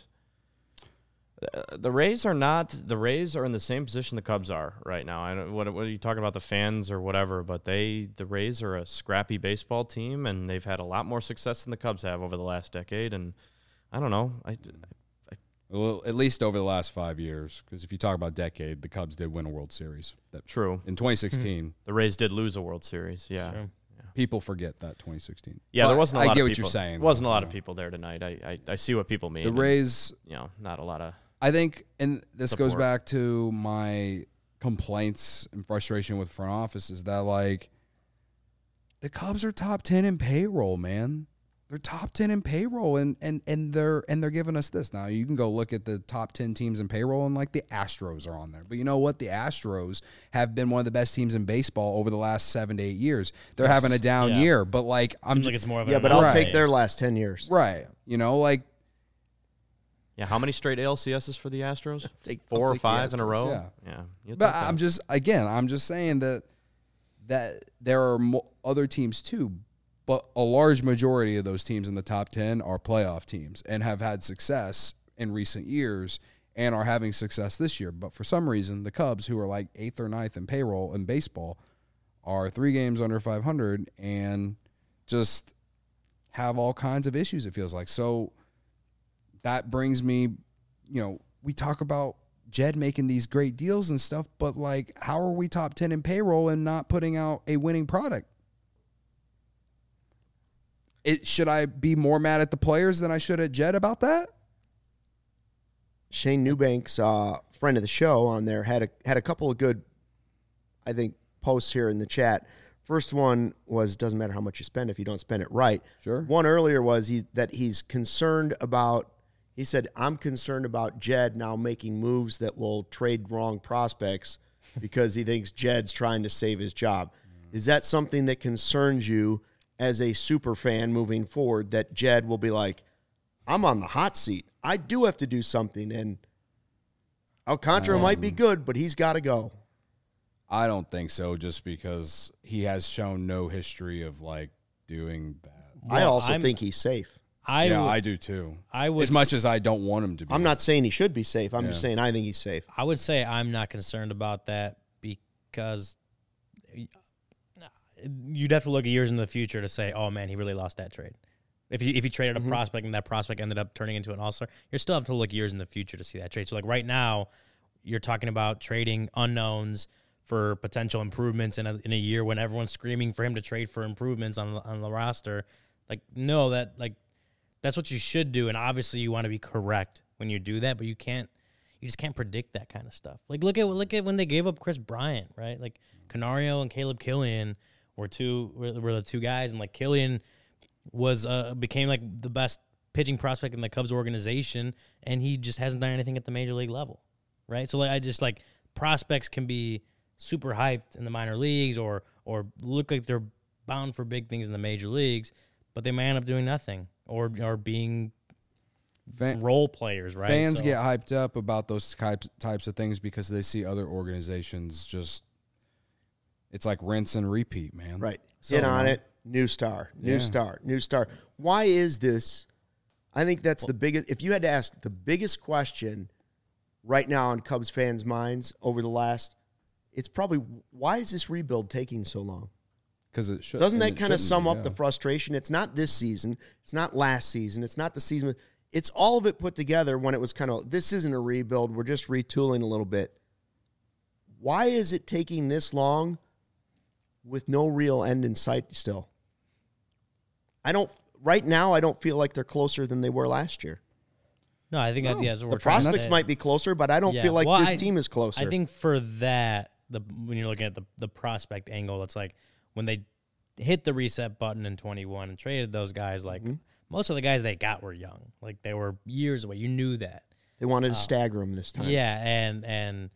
Uh, the Rays are not, the Rays are in the same position the Cubs are right now. I don't, what, what are you talking about, the fans or whatever, but they, the Rays are a scrappy baseball team, and they've had a lot more success than the Cubs have over the last decade, and I don't know. I, Well, at least over the last five years, because if you talk about decade, the Cubs did win a World Series. That True. in twenty sixteen. The Rays did lose a World Series, yeah. True. People forget that twenty sixteen. Yeah, there But wasn't a I lot get of what people. you're saying. Wasn't a though, lot you of know. people there tonight. I, I, I see what people mean. The and, Rays, you know, not a lot of. I think, and this goes Support. back to my complaints and frustration with front office is that like the Cubs are top ten in payroll, man. They're top ten in payroll, and and and they're and they're giving us this. Now you can go look at the top ten teams in payroll, and like the Astros are on there. But you know what? The Astros have been one of the best teams in baseball over the last seven to eight years. They're having a down Yeah. year, but like I'm Seems like it's more of Yeah, an but I'll anomaly. take their last ten years. right. You know, like Yeah, how many straight A L C S's for the Astros? Take- I'll Four or take the five in a Astros, row? yeah. Yeah. you'll But take that. I'm just again, I'm just saying that that there are mo- other teams too, but a large majority of those teams in the top ten are playoff teams and have had success in recent years and are having success this year. But for some reason, the Cubs, who are like eighth or ninth in payroll in baseball, are three games under five hundred and just have all kinds of issues, it feels like. So that brings me, you know, we talk about Jed making these great deals and stuff, but like, how are we top ten in payroll and not putting out a winning product? It, should I be more mad at the players than I should at Jed about that? Shane Newbank's uh, friend of the show on there had a had a couple of good, I think, posts here in the chat. First one was doesn't matter how much you spend if you don't spend it right. Sure. One earlier was he that he's concerned about. He said, "I'm concerned about Jed now making moves that will trade wrong prospects because he thinks Jed's trying to save his job." Is that something that concerns you as a super fan moving forward? That Jed will be like, "I'm on the hot seat. I do have to do something, and Alcantara might be good, but he's got to go." I don't think so, just because he has shown no history of like doing bad. I Well, also I'm- think he's safe. I yeah, would, I do too. I would As much as I don't want him to be. I'm not saying he should be safe. I'm just Yeah. saying I think he's safe. I would say I'm not concerned about that because you'd have to look years in the future to say, oh man, he really lost that trade. If you if you traded a Mm-hmm. prospect and that prospect ended up turning into an all-star, you still have to look years in the future to see that trade. So like right now, you're talking about trading unknowns for potential improvements in a, in a year when everyone's screaming for him to trade for improvements on, on the roster. Like, no, that like that's what you should do, and obviously you want to be correct when you do that, but you can't. You just can't predict that kind of stuff. Like look at look at when they gave up Chris Bryant, right? Like Canario and Caleb Killian were two were, were the two guys, and like Killian was uh, became like the best pitching prospect in the Cubs organization, and he just hasn't done anything at the major league level, right? So like I just like prospects can be super hyped in the minor leagues or or look like they're bound for big things in the major leagues, but they may end up doing nothing or or being Fan, role players, right? Fans So- get hyped up about those types types of things because they see other organizations just. It's like rinse and repeat, man. Right. So, Get on uh, it. New star. New Yeah. star. New star. Why is this? I think that's the biggest. If you had to ask the biggest question right now on Cubs fans' minds over the last, it's probably why is this rebuild taking so long? Because it should. Doesn't and that it kind of shouldn't sum be, up yeah. the frustration? It's not this season. It's not last season. It's not the season. It's all of it put together when it was kind of, this isn't a rebuild. We're just retooling a little bit. Why is it taking this long with no real end in sight still? I don't, right now, I don't feel like they're closer than they were last year. No, I think that, yeah, that's what The we're trying to prospects say. might be closer, but I don't Yeah. feel like Well, this I- team is closer. I think for that, the when you're looking at the, the prospect angle, it's like when they hit the reset button in twenty-one and traded those guys, like Mm-hmm. most of the guys they got were young. Like they were years away. You knew that. they wanted to stagger them this time. Yeah, and and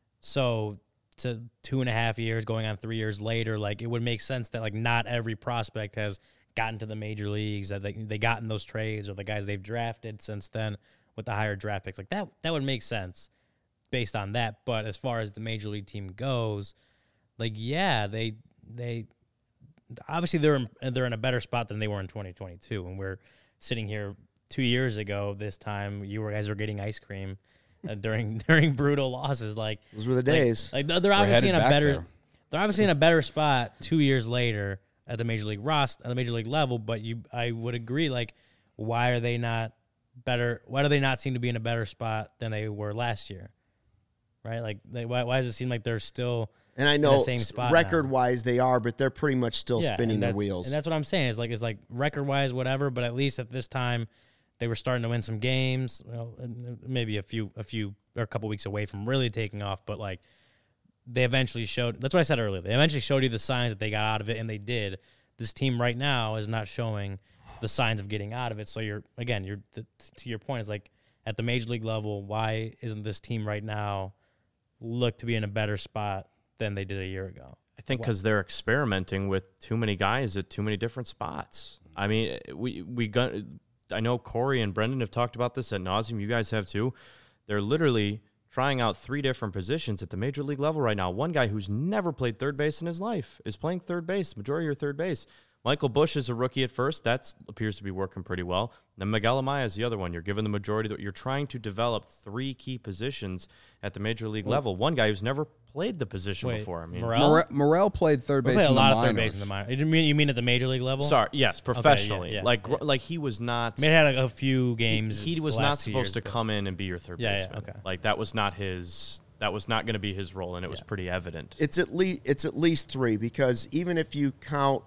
so to two and a half years going on three years later, like it would make sense that like not every prospect has gotten to the major leagues, that they they got in those trades or the guys they've drafted since then with the higher draft picks. Like that that would make sense based on that. But as far as the major league team goes, like yeah, they they obviously they're in, they're in a better spot than they were in twenty twenty-two when we're sitting here two years ago. This time you were guys were getting ice cream uh, during during brutal losses. Like Those were the like- days. Like, they're obviously in headed a back better there. they're obviously in a better spot two years later at the major league roster at the major league level. But you I would agree, like why are they not better? Why do they not seem to be in a better spot than they were last year? Right? Like they, why why does it seem like they're still And I in the know same spot now? record-wise they are, but they're pretty much still Yeah, spinning and their that's- wheels. And that's what I'm saying. Is like it's like record wise, whatever. But at least at this time, they were starting to win some games. Well, and maybe a few, a few, or a couple weeks away from really taking off. But like they eventually showed. That's what I said earlier. They eventually showed you the signs that they got out of it, and they did. This team right now is not showing the signs of getting out of it. So you're again, you're the, to your point. It's like at the major league level, why isn't this team right now look to be in a better spot than they did a year ago? I think because they're experimenting with too many guys at too many different spots. I mean, we we got. I know Corey and Brendan have talked about this ad nauseum. You guys have too. They're literally trying out three different positions at the major league level right now. One guy who's never played third base in his life is playing third base, majority of third base. Michael Bush is a rookie at first. That appears to be working pretty well. Then Miguel Amaya is the other one. You're given the majority. You're trying to develop three key positions at the major league level. One guy who's never played the position Wait, before. I mean, Morel? Morel, Morel played third We base play a in lot the of third minors. base in the minor. You mean you mean at the major league level? Sorry, yes, professionally. yeah, like, yeah. like he was not. I mean, it had like a few games. he, he was the not last two supposed years, to but- come in and be your third Yeah, yeah, baseman. okay. Like that was not his. That was not going to be his role, and it was Yeah. pretty evident. It's at least it's at least three because even if you count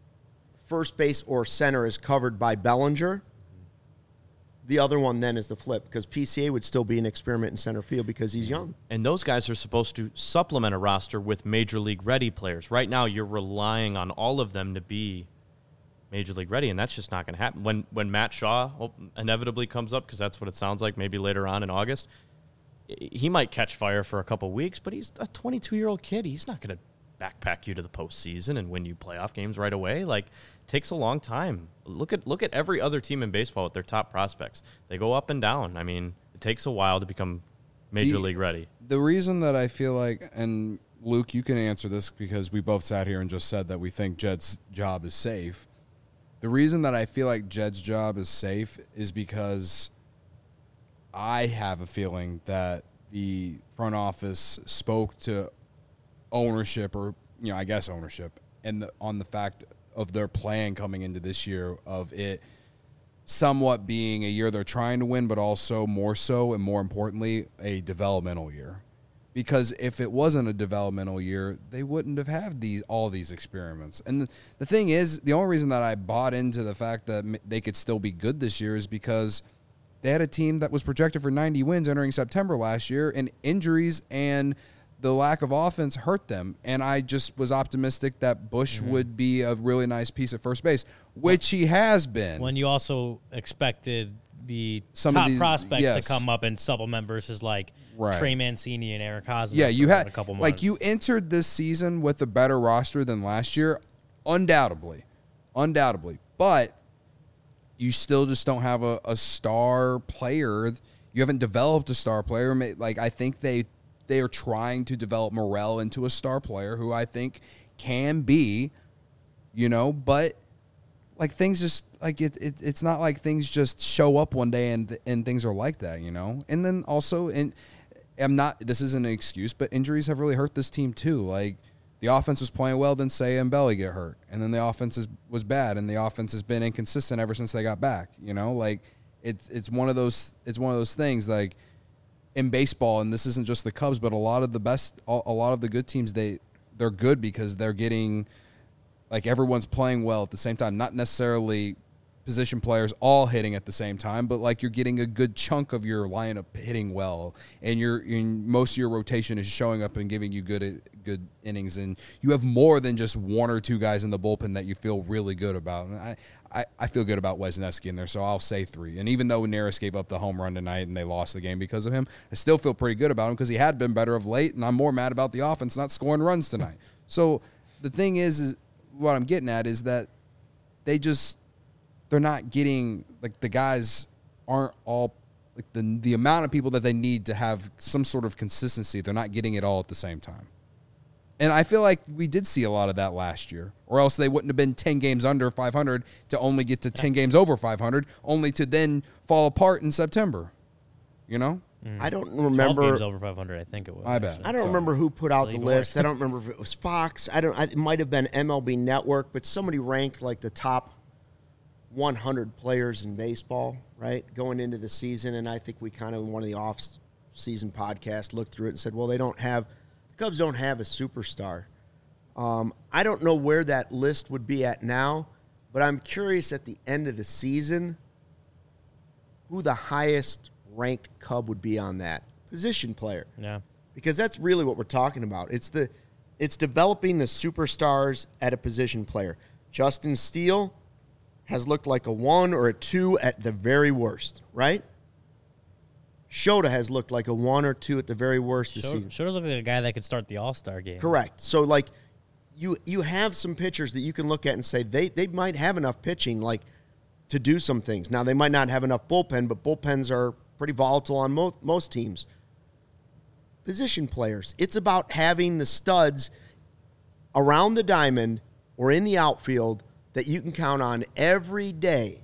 first base or center is covered by Bellinger, the other one then is the flip because P C A would still be an experiment in center field because he's young. And those guys are supposed to supplement a roster with major league ready players. Right now, you're relying on all of them to be major league ready, and that's just not going to happen. When when Matt Shaw oh, inevitably comes up, because that's what it sounds like, maybe later on in August, he might catch fire for a couple weeks, but he's a twenty-two-year-old kid. He's not going to backpack you to the postseason and win you playoff games right away. Like, it takes a long time. Look at look at every other team in baseball with their top prospects. They go up and down. I mean, it takes a while to become major The- league ready. The reason that I feel like, and Luke, you can answer this because we both sat here and just said that we think Jed's job is safe. The reason that I feel like Jed's job is safe is because I have a feeling that the front office spoke to ownership, or you know, I guess ownership, and the, on the fact of their plan coming into this year of it somewhat being a year they're trying to win, but also more so and more importantly, a developmental year. Because if it wasn't a developmental year, they wouldn't have had these all these experiments. And the, the thing is, the only reason that I bought into the fact that m- they could still be good this year is because they had a team that was projected for ninety wins entering September last year, and injuries and the lack of offense hurt them. And I just was optimistic that Bush mm-hmm. would be a really nice piece at first base, which he has been. When you also expected the Some top of these, prospects yes. to come up and supplement versus like right. Trey Mancini and Eric Hosmer. Yeah, you had a couple months. Like you entered this season with a better roster than last year, undoubtedly, undoubtedly. But you still just don't have a, a star player. You haven't developed a star player. Like I think they they are trying to develop Morel into a star player who I think can be, you know, but. Like things just like it, it, it's not like things just show up one day and and things are like that, you know. And then also, and I'm not. This isn't an excuse, but injuries have really hurt this team too. Like the offense was playing well, then Seiya and Belly get hurt, and then the offense is, was bad, and the offense has been inconsistent ever since they got back. You know, like it's it's one of those it's one of those things like in baseball, and this isn't just the Cubs, but a lot of the best, a lot of the good teams they they're good because they're getting. Like everyone's playing well at the same time, not necessarily position players all hitting at the same time, but like you're getting a good chunk of your lineup hitting well, and you're in most of your rotation is showing up and giving you good good innings, and you have more than just one or two guys in the bullpen that you feel really good about. And I, I, I feel good about Wesneski in there, so I'll say three. And even though Neris gave up the home run tonight and they lost the game because of him, I still feel pretty good about him because he had been better of late, and I'm more mad about the offense not scoring runs tonight. So the thing is, is what I'm getting at is that they just they're not getting like the guys aren't all like the the amount of people that they need to have some sort of consistency. They're not getting it all at the same time. And I feel like we did see a lot of that last year, or else they wouldn't have been ten games under five hundred to only get to ten games over five hundred, only to then fall apart in September. You know? Mm. I don't remember. twelve games over five hundred, I think it was. I bet. actually. I don't Sorry. remember who put out the Even list. worse. I don't remember if it was Fox. I don't. I, it might have been M L B Network, but somebody ranked like the top one hundred players in baseball, right, going into the season. And I think we kind of in one of the off-season podcasts looked through it and said, well, they don't have the Cubs don't have a superstar. Um, I don't know where that list would be at now, but I'm curious at the end of the season who the highest ranked Cub would be on that position player. Yeah. Because that's really what we're talking about. It's the it's developing the superstars at a position player. Justin Steele has looked like a one or a two at the very worst, right? Shota has looked like a one or two at the very worst this season. Shota's looking like a guy that could start the All-Star game. Correct. So, like, you you have some pitchers that you can look at and say they, they might have enough pitching, like, to do some things. Now, they might not have enough bullpen, but bullpens are pretty volatile on mo- most teams. Position players. It's about having the studs around the diamond or in the outfield that you can count on every day.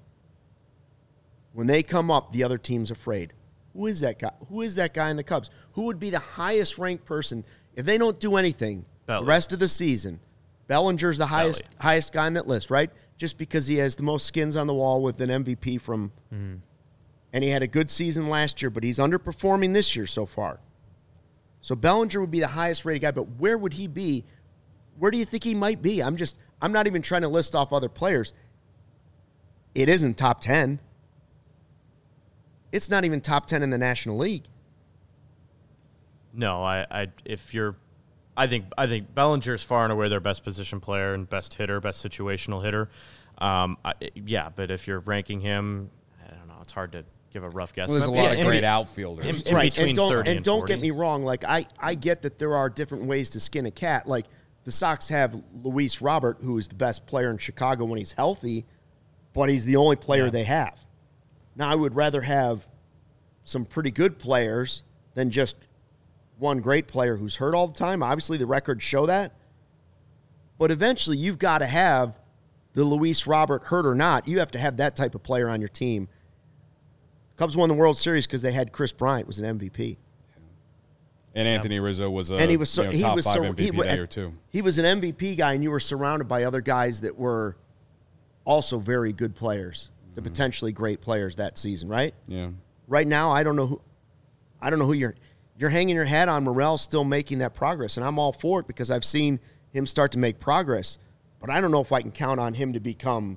When they come up, the other team's afraid. Who is that guy? Who is that guy in the Cubs? Who would be the highest ranked person if they don't do anything Belly. the rest of the season? Bellinger's the highest Belly. highest guy on that list, right? Just because he has the most skins on the wall with an M V P from mm-hmm. and he had a good season last year, but he's underperforming this year so far. So Bellinger would be the highest rated guy, but where would he be? Where do you think he might be? I'm just I'm not even trying to list off other players. It isn't top ten. It's not even top ten in the National League. No, I, I if you're I think I think Bellinger's far and away their best position player and best hitter, best situational hitter. Um, I, yeah, but if you're ranking him, I don't know. It's hard to give a rough guess. Well, there's a But lot yeah, of in great be- outfielders. in- in right. between and don't, thirty and and don't forty. get me wrong. Like I, I get that there are different ways to skin a cat. Like the Sox have Luis Robert, who is the best player in Chicago when he's healthy, but he's the only player Yeah. they have. Now I would rather have some pretty good players than just one great player who's hurt all the time. Obviously, the records show that. But eventually, you've got to have the Luis Robert, hurt or not, you have to have that type of player on your team. Cubs won the World Series because they had Chris Bryant was an M V P. And Anthony Rizzo was a And he was so, you know, he top was five so, M V P he, that year too. He was an M V P guy, and you were surrounded by other guys that were also very good players, the Mm-hmm. potentially great players that season, right? Yeah. Right now, I don't know who I don't know who your you're hanging your hat on Morel still making that progress, and I'm all for it because I've seen him start to make progress. But I don't know if I can count on him to become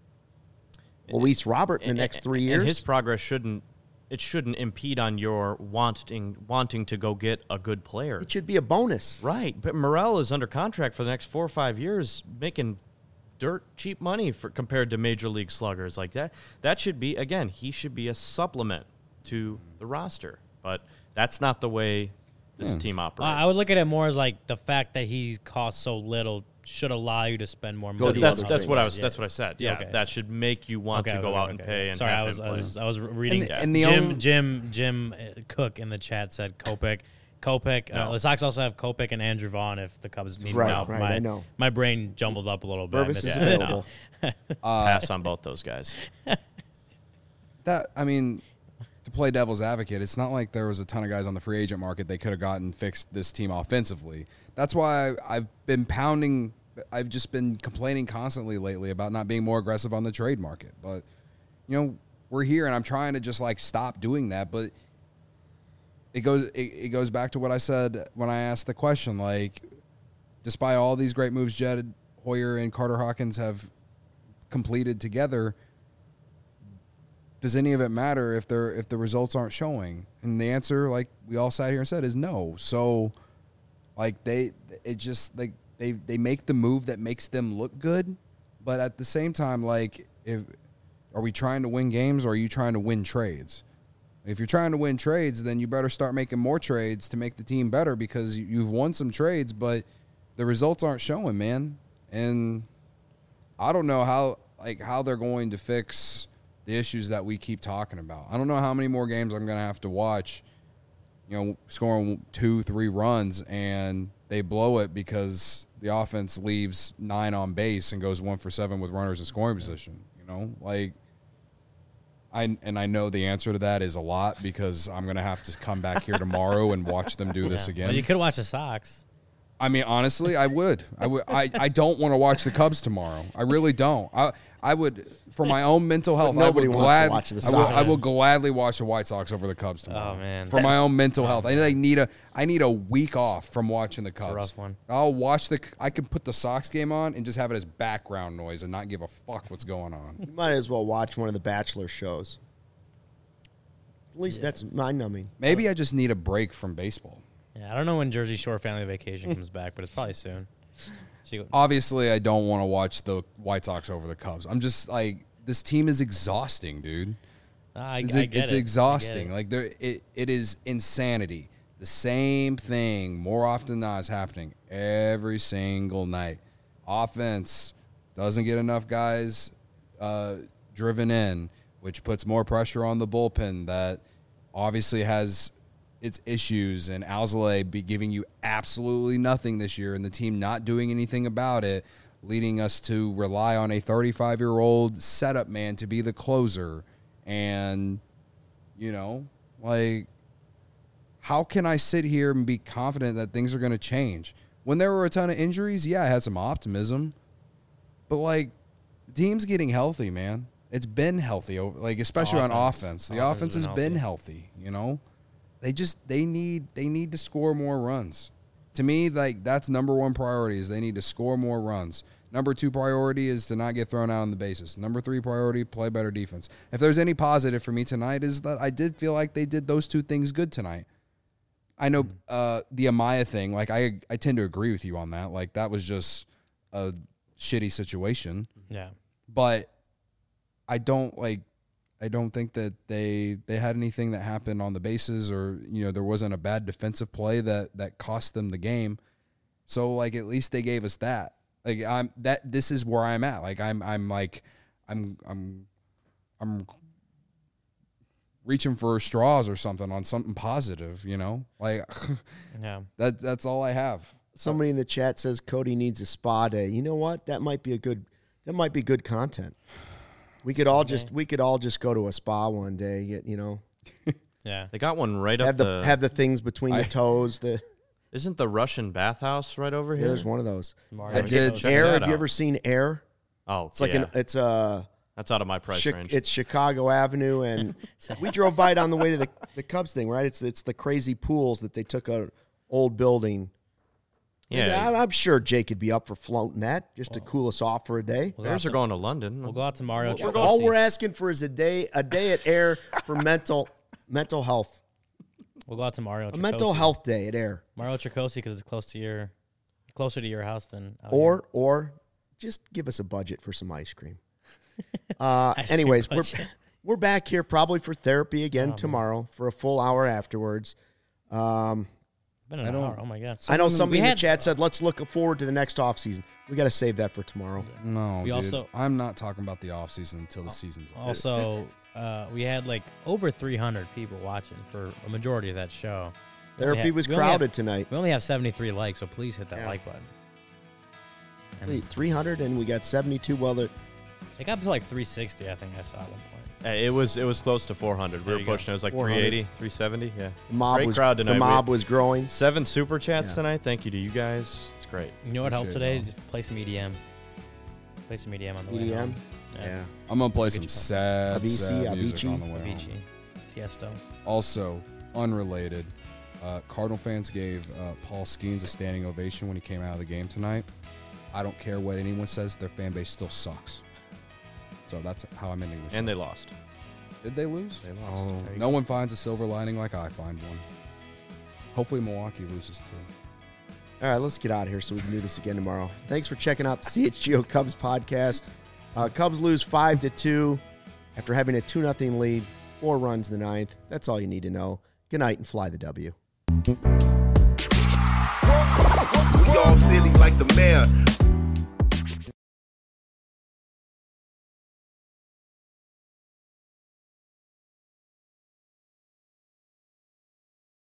Luis Robert in the next three years. And his progress shouldn't it shouldn't impede on your wanting wanting to go get a good player. It should be a bonus. Right, but Morel is under contract for the next four or five years, making dirt cheap money for compared to major league sluggers like that. That should be, again, he should be a supplement to the roster. But that's not the way this Yeah. team Uh, operates. I would look at it more as like the fact that he costs so little should allow you to spend more Go money. do that's other that's what I things. was that's what I said. Yeah, Okay. that should make you want Okay, to go okay, out okay, and okay. pay and Sorry, have I was, him I play. was I was reading. And the- and the Jim only- Jim Jim uh, Cook in the chat said Kopech. Kopech. Uh, No. the Sox also have Kopech and Andrew Vaughn if the Cubs need Right, him out. right, my, I know. My brain jumbled up a little bit. I Purvis missed is it. available. Pass on both those guys. That I mean, to play devil's advocate, it's not like there was a ton of guys on the free agent market they could have gotten fixed this team offensively. That's why I've been pounding. I've just been complaining constantly lately about not being more aggressive on the trade market. But you know, we're here, and I'm trying to just like stop doing that. But it goes it, it goes back to what I said when I asked the question. Like, despite all these great moves Jed Hoyer and Carter Hawkins have completed together, does any of it matter if they're if the results aren't showing? And the answer, like we all sat here and said, is no. So, like they, it just like they they make the move that makes them look good, but at the same time, like if are we trying to win games or are you trying to win trades? If you're trying to win trades, then you better start making more trades to make the team better because you- you've won some trades, but the results aren't showing, man. And I don't know how like how they're going to fix the issues that we keep talking about. I don't know how many more games I'm going to have to watch, you know, scoring two, three runs and they blow it because the offense leaves nine on base and goes one for seven with runners in scoring position. You know, like I and I know the answer to that is a lot because I'm going to have to come back here tomorrow and watch them do this Yeah. again. But you could watch the Sox. I mean, honestly, I would. I would. I, I don't want to watch the Cubs tomorrow. I really don't. I I would for my own mental health. nobody I would wants to glad, watch the I will, Sox. I will gladly watch the White Sox over the Cubs tomorrow. Oh, man. For my own mental health, I like need a I need a week off from watching the Cubs. a rough one. I'll watch the. I can put the Sox game on and just have it as background noise and not give a fuck what's going on. You might as well watch one of the Bachelor shows. At least that's mind numbing. Maybe I just need a break from baseball. Yeah, I don't know when Jersey Shore Family Vacation comes back, but it's probably soon. She, Obviously, I don't want to watch the White Sox over the Cubs. I'm just like this team is exhausting, dude. I, It's, I it's get it. I get exhausting. it. Like there, it, it is insanity. The same thing more often than not is happening every single night. Offense doesn't get enough guys uh, driven in, which puts more pressure on the bullpen that obviously has its issues. And Alzolay be giving you absolutely nothing this year, and the team not doing anything about it, leading us to rely on a thirty-five-year-old setup man to be the closer. And, you know, like, how can I sit here and be confident that things are going to change? When there were a ton of injuries, yeah, I had some optimism. But, like, the team's getting healthy, man. It's been healthy, like, especially on Offense. offense. The Offense offense has has been been healthy, you know? They just, they need, they need to score more runs. To me, like, that's number one priority is they need to score more runs. Number two priority is to not get thrown out on the bases. Number three priority, play better defense. If there's any positive for me tonight is that I did feel like they did those two things good tonight. I know uh, the Amaya thing, like I I tend to agree with you on that. Like that was just a shitty situation. Yeah. But I don't like I don't think that they they had anything that happened on the bases or you know there wasn't a bad defensive play that that cost them the game. So like at least they gave us that. Like I'm that this is where I'm at. Like I'm I'm like I'm I'm I'm reaching for straws or something on something positive, you know? Like Yeah. that that's all I have. Somebody in the chat says Cody needs a spa day. You know what? That might be a good that might be good content. We could all just we could all just go to a spa one day, get, you know, Yeah. They got one right have up the the. have the things between I- the toes, the Isn't the Russian bathhouse right over yeah, here? there's one of those. Mario I did- Bros. Check Air, that have you out. ever seen Air? Oh, It's like yeah. an it's a That's out of my price Chi- range. It's Chicago Avenue, and we drove by it on the way to the, the Cubs thing, right? It's it's the crazy pools that they took a old building. yeah, And I'm, I'm sure Jake could be up for floating that just to cool us off for a day. We'll go, out Bears to, are going to London. we'll go out to Mario We're- Tricosi. all we're asking for is a day a day at Air for mental mental health. We'll go out to Mario A Tricosi. mental health day at Air. Mario Tricosi because it's close to your, closer to your house than out Or here. or just give us a budget for some ice cream. Uh, Ice cream anyways, we're budget. we're back here probably for therapy again Oh, man. tomorrow for a full hour afterwards. Um, Been an I don't- hour. Oh my god. I know Someone- somebody we in the had- chat said, let's look forward to the next offseason. We got to save that for tomorrow. No, We dude. also- I'm not talking about the off season until the season's over. Also, uh, we had like over three hundred people watching for a majority of that show. We only Therapy had- was we only had- crowded tonight. We only have seventy-three likes, so please hit that Yeah. like button. And Wait, three hundred and we got seventy-two. Well, the, it got up to like three sixty, I think I saw at one point. Uh, it was it was close to four hundred. We There were you go. pushing. It was like four hundred. three eighty, three seventy. Yeah. the mob Great was crowd tonight. the We- mob was growing. Seven super chats Yeah. tonight. Thank you to you guys. It's great. You know what helped Appreciate today? it, Just play some E D M. Play some E D M on the way E D M? home. Yeah. I'm gonna play Get some you sad, Avicii, sad music Avicii. on the way home. Avicii, Tiesto. Also, unrelated, uh, Cardinal fans gave uh, Paul Skeens a standing ovation when he came out of the game tonight. I don't care what anyone says; their fan base still sucks. So that's how I'm ending this. And they lost. Did they lose? They lost. Oh, There you no go. one finds a silver lining like I find one. Hopefully, Milwaukee loses too. All right, let's get out of here so we can do this again tomorrow. Thanks for checking out the C H G O Cubs podcast. Uh, Cubs lose five to two after having a two nothing lead, four runs in the ninth. That's all you need to know. Good night and fly the W. We all silly like the mayor.